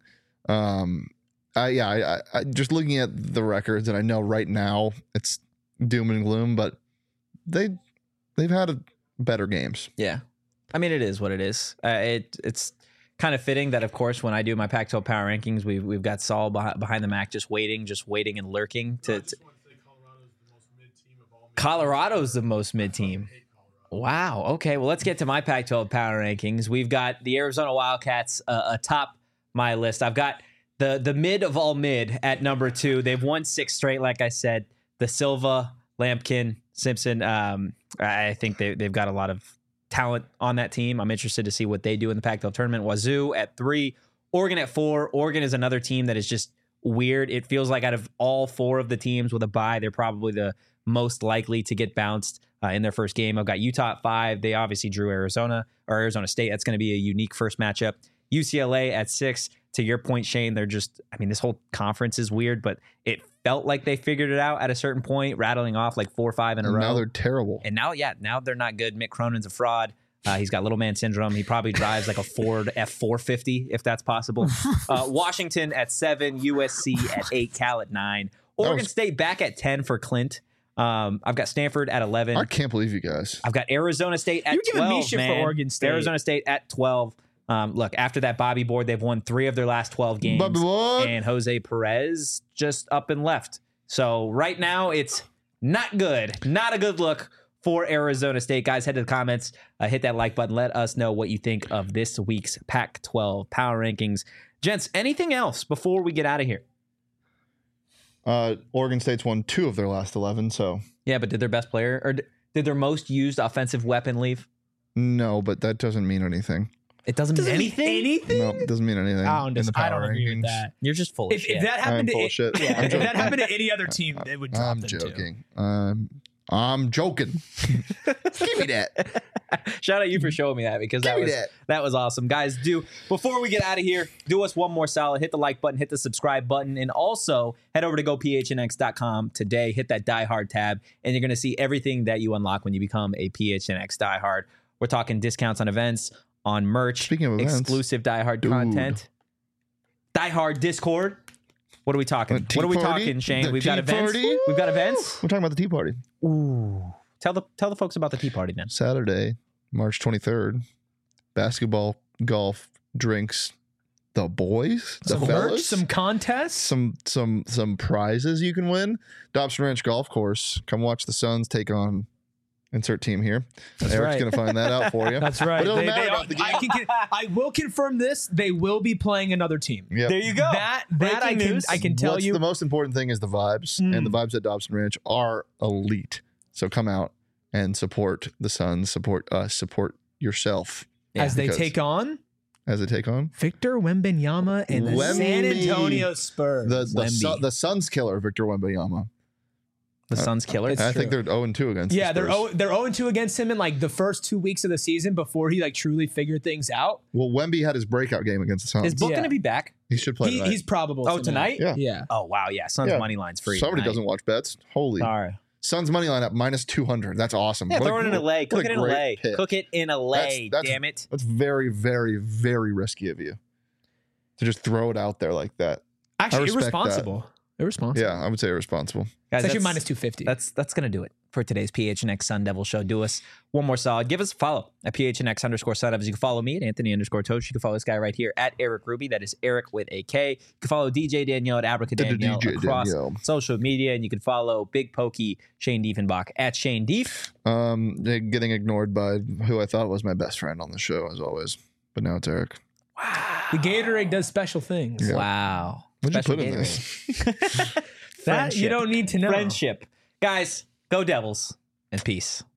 Speaker 2: Um, I yeah, I, I, I just looking at the records, and I know right now it's doom and gloom, but they they've had a, better games.
Speaker 1: Yeah. I mean, it is what it is. Uh, it it's kind of fitting that, of course, when I do my Pac twelve power rankings, we've we've got Saul behind, behind the Mac, just waiting, just waiting and lurking. To, to Colorado's the most mid team. Wow. Okay. Well, let's get to my Pac twelve power rankings. We've got the Arizona Wildcats uh, atop my list. I've got the the mid of all mid at number two. They've won six straight, like I said. The Silva, Lampkin, Simpson. Um, I think they they've got a lot of talent on that team. I'm interested to see what they do in the Pac twelve tournament. Wazoo at three, Oregon at four. Oregon is another team that is just weird. It feels like out of all four of the teams with a bye, they're probably the most likely to get bounced uh, in their first game. I've got Utah at five. They obviously drew Arizona or Arizona State. That's going to be a unique first matchup. U C L A at six. To your point, Shane, they're just, I mean, this whole conference is weird, but it felt like they figured it out at a certain point, rattling off like four or five in a
Speaker 2: And
Speaker 1: row.
Speaker 2: now they're terrible.
Speaker 1: And now, yeah, now they're not good. Mick Cronin's a fraud. Uh, he's got little man syndrome. He probably drives like a Ford F four fifty, if that's possible. Uh, Washington at seven, U S C at eight, Cal at nine. Oregon
Speaker 2: was-
Speaker 1: State back at ten for Clint. Um, I've got Stanford at eleven.
Speaker 2: I can't believe you guys.
Speaker 1: I've got Arizona State at
Speaker 3: You're giving
Speaker 1: twelve,
Speaker 3: me shit for
Speaker 1: man.
Speaker 3: Oregon State.
Speaker 1: Arizona State at twelve. Um, look, after that Bobby board, they've won three of their last twelve games.
Speaker 2: Bobby what?
Speaker 1: And Jose Perez just up and left. So right now, it's not good. Not a good look for Arizona State. Guys, head to the comments, uh, hit that like button. Let us know what you think of this week's Pac twelve Power Rankings. Gents, anything else before we get out of here?
Speaker 2: Uh, Oregon State's won two of their last eleven, so
Speaker 1: Yeah, but did their best player or d- did their most used offensive weapon leave?
Speaker 2: no, but that doesn't mean anything.
Speaker 1: It doesn't,
Speaker 3: Doesn't
Speaker 1: mean
Speaker 3: mean
Speaker 1: anything.
Speaker 3: anything?
Speaker 2: No, it doesn't mean anything.
Speaker 3: I don't,
Speaker 2: in the
Speaker 3: I
Speaker 2: power
Speaker 3: don't agree with
Speaker 2: rankings.
Speaker 3: that.
Speaker 1: You're just full of
Speaker 3: If,
Speaker 1: shit.
Speaker 3: if that
Speaker 2: I am
Speaker 3: happened to
Speaker 2: full
Speaker 3: it-
Speaker 2: of shit.
Speaker 3: yeah,
Speaker 2: I'm
Speaker 3: if that
Speaker 2: joking.
Speaker 3: happened to any other team, it would drop
Speaker 2: I'm
Speaker 3: them too.
Speaker 2: joking. Um, I'm joking. Give me that.
Speaker 1: Shout out you for showing me that because that
Speaker 2: Give me
Speaker 1: was
Speaker 2: that.
Speaker 1: that was awesome. Guys, do before we get out of here, do us one more solid. Hit the like button, hit the subscribe button, and also head over to go p h n x dot com today. Hit that Die Hard tab, and you're going to see everything that you unlock when you become a P H N X Die Hard. We're talking discounts on events, on merch,
Speaker 2: Speaking of events,
Speaker 1: exclusive Die Hard
Speaker 2: dude.
Speaker 1: content, Die Hard Discord. What are we talking?
Speaker 2: A tea
Speaker 1: What are we
Speaker 2: party?
Speaker 1: talking, Shane?
Speaker 2: The
Speaker 1: We've got
Speaker 2: tea
Speaker 1: events.
Speaker 2: party?
Speaker 1: We've got events.
Speaker 2: We're talking about the Tea Party.
Speaker 1: Ooh. Tell the tell the folks about the tea party then.
Speaker 2: Saturday, March twenty-third. Basketball, golf, drinks, the boys, the
Speaker 3: Some merch,
Speaker 2: fellas,
Speaker 3: some contests.
Speaker 2: some some some prizes you can win. Dobson Ranch Golf Course. Come watch the Suns take on insert team here. Eric's
Speaker 3: right.
Speaker 2: gonna find that out for you.
Speaker 3: That's right.
Speaker 2: But it doesn't
Speaker 3: They-
Speaker 2: matter
Speaker 3: they
Speaker 2: about
Speaker 3: are-
Speaker 2: the game.
Speaker 3: I, can, can- I will confirm this. They will be playing another team.
Speaker 2: Yep.
Speaker 1: There you go.
Speaker 3: That that I
Speaker 1: Breaking
Speaker 3: can
Speaker 1: news.
Speaker 3: I can tell
Speaker 2: What's
Speaker 3: you.
Speaker 2: the most important thing is the vibes,
Speaker 3: Mm.
Speaker 2: and the vibes at Dobson Ranch are elite. So come out and support the Suns, support us, support yourself
Speaker 3: as they
Speaker 2: because-
Speaker 3: take on
Speaker 2: as they take on
Speaker 3: Victor Wembanyama and the
Speaker 2: Wemby.
Speaker 3: San Antonio Spurs.
Speaker 2: the the,
Speaker 1: Wemby.
Speaker 2: Su- the Suns killer, Victor Wembanyama.
Speaker 1: The Suns killer.
Speaker 3: It's
Speaker 2: I
Speaker 3: true.
Speaker 2: think they're zero and two against.
Speaker 3: yeah,
Speaker 2: the
Speaker 3: they're
Speaker 2: Spurs.
Speaker 3: oh, they're zero and two against him in like the first two weeks of the season before he like truly figured things out.
Speaker 2: Well, Wemby had his breakout game against the Suns.
Speaker 1: Is Book
Speaker 3: Yeah.
Speaker 1: going to be back?
Speaker 2: he should play
Speaker 3: He,
Speaker 2: tonight.
Speaker 3: he's probable.
Speaker 1: Oh, tonight?
Speaker 2: Yeah.
Speaker 3: Yeah.
Speaker 1: Oh, wow. Yeah. Suns
Speaker 2: Yeah.
Speaker 1: money line's free.
Speaker 2: Somebody
Speaker 1: tonight.
Speaker 2: doesn't watch bets. Holy
Speaker 1: Sorry.
Speaker 2: Suns money line up minus two hundred. That's awesome.
Speaker 1: Yeah,
Speaker 2: What a
Speaker 1: throw it in
Speaker 2: cool-
Speaker 1: a lay.
Speaker 2: what
Speaker 1: Cook
Speaker 2: a
Speaker 1: it in a
Speaker 2: great
Speaker 1: lay.
Speaker 2: pick.
Speaker 1: Cook it in a lay.
Speaker 2: That's- that's-
Speaker 1: Damn it.
Speaker 2: That's very, very, very risky of you to just throw it out there like that.
Speaker 3: Actually,
Speaker 2: respect
Speaker 3: irresponsible. Irresponsible.
Speaker 2: Yeah, I would say irresponsible.
Speaker 1: Guys,
Speaker 3: It's actually
Speaker 1: that's-
Speaker 3: minus two fifty.
Speaker 1: That's that's gonna do it for today's P H N X Sun Devil Show. Do us one more solid. Give us a follow at P H N X underscore Sun Devils. You can follow me at Anthony underscore Toach. You can follow this guy right here at Eric Ruby. That is Eric with a K. You can follow D J Danielle at Abraca
Speaker 2: D J
Speaker 1: Danielle across
Speaker 2: Danielle.
Speaker 1: social media, and you can follow Big Pokey Shane Diefenbach at Shane Dief.
Speaker 2: Um, they're getting ignored by who I thought was my best friend on the show, as always. But now it's Eric.
Speaker 3: the Gatorade does special things.
Speaker 2: Yeah.
Speaker 1: Wow.
Speaker 2: What'd you
Speaker 1: Special
Speaker 2: put in
Speaker 1: Gatorade.
Speaker 2: this?
Speaker 3: That you
Speaker 1: Friendship.
Speaker 3: don't need to know.
Speaker 1: Friendship. Guys, go Devils and peace.